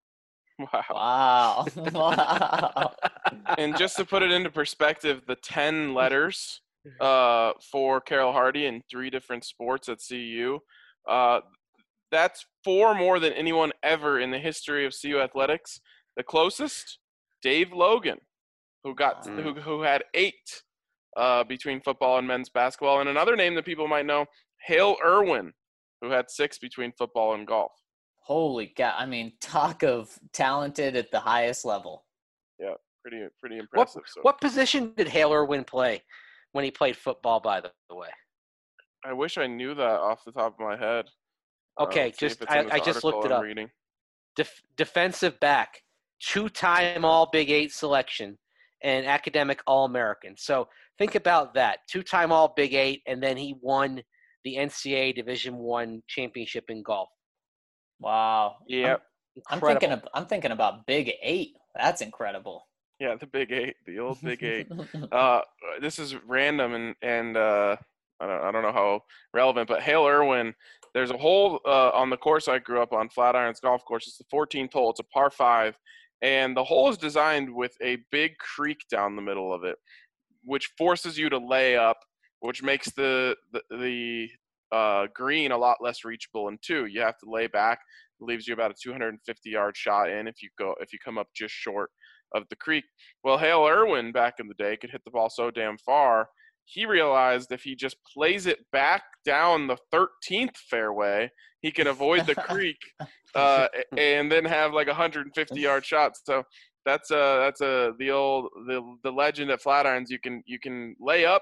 Wow. Wow. Wow. And just to put it into perspective, the ten letters uh, for Carroll Hardy in three different sports at C U, uh, that's four more than anyone ever in the history of C U athletics. The closest, Dave Logan, who got Wow. who who had eight uh, between football and men's basketball, and another name that people might know, Hale Irwin, who had six between football and golf. Holy cow. I mean, talk of talented at the highest level. Yeah, pretty pretty What, impressive. So what position did Hale Irwin play when he played football, by the way? I wish I knew that off the top of my head. Uh, Okay, let's see if just it's in I, this I just looked article it I'm up. reading. Def, defensive back, two-time All Big Eight selection, and academic All-American. So think about that: two-time All Big Eight, and then he won the N C A A Division One championship in golf. Wow. Yeah, I'm Incredible. thinking of I'm thinking about Big Eight. That's incredible. yeah, the Big Eight, the old Big Eight. Uh, this is random and and uh, I don't I don't know how relevant, but Hale Irwin. There's a hole uh, on the course I grew up on, Flatirons Golf Course. It's the fourteenth hole. It's a par five, and the hole is designed with a big creek down the middle of it, which forces you to lay up, which makes the the, the uh, green a lot less reachable. And two, you have to lay back. It leaves you about a two hundred fifty yard shot in if you go if you come up just short of the creek. Well, Hale Irwin back in the day could hit the ball so damn far. He realized if he just plays it back down the thirteenth fairway, he can avoid the creek uh, and then have like a one hundred fifty yard shot. So that's uh that's a the old the the legend at Flatirons. You can you can lay up,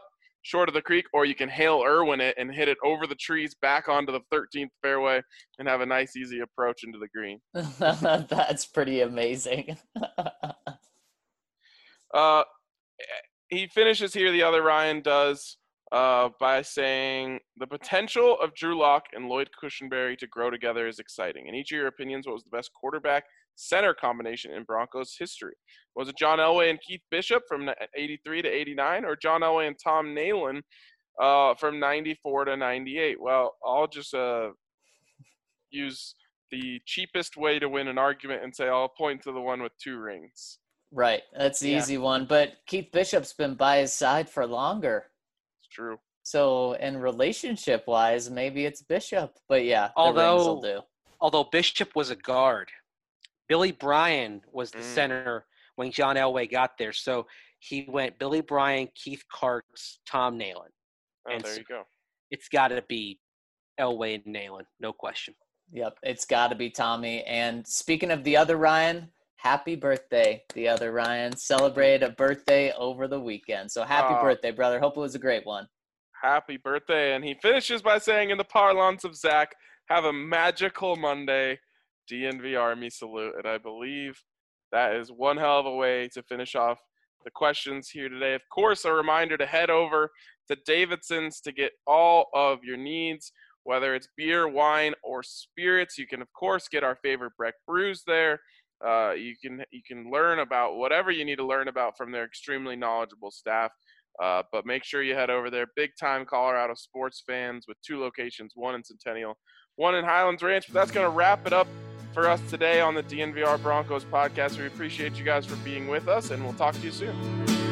short of the creek, or you can Hale Irwin it and hit it over the trees back onto the thirteenth fairway and have a nice, easy approach into the green. That's pretty amazing. uh, he finishes here, the other Ryan does, uh, by saying, the potential of Drew Lock and Lloyd Cushenberry to grow together is exciting. In each of your opinions, what was the best quarterback center combination in Broncos history? Was it John Elway and Keith Bishop from eighty-three to eighty-nine, or John Elway and Tom Nalen uh, from ninety-four to ninety-eight? Well, I'll just uh, use the cheapest way to win an argument and say I'll point to the one with two rings. Right. That's the Yeah. easy one. But Keith Bishop's been by his side for longer. It's true. So, in relationship-wise, maybe it's Bishop. But yeah, the Although- rings will do. Although Bishop was a guard, Billy Bryan was the Mm. center when John Elway got there. So he went Billy Bryan, Keith Karts, Tom Nalen. Oh, And there s- you go. It's got to be Elway and Nalen, no question. Yep, it's got to be Tommy. And speaking of the other Ryan, happy birthday, the other Ryan. Celebrated a birthday over the weekend. So happy Aw. birthday, brother. Hope it was a great one. Happy birthday. And he finishes by saying, in the parlance of Zach, have a magical Monday. D N V Army salute. And I believe that is one hell of a way to finish off the questions here today. Of course, a reminder to head over to Davidson's to get all of your needs, whether it's beer, wine, or spirits. You can, of course, get our favorite Breck brews there. Uh, you can you can learn about whatever you need to learn about from their extremely knowledgeable staff. Uh, but make sure you head over there. Big-time Colorado sports fans with two locations, one in Centennial, one in Highlands Ranch. But that's going to wrap it up for us today on the D N V R Broncos podcast. We appreciate you guys for being with us, and we'll talk to you soon.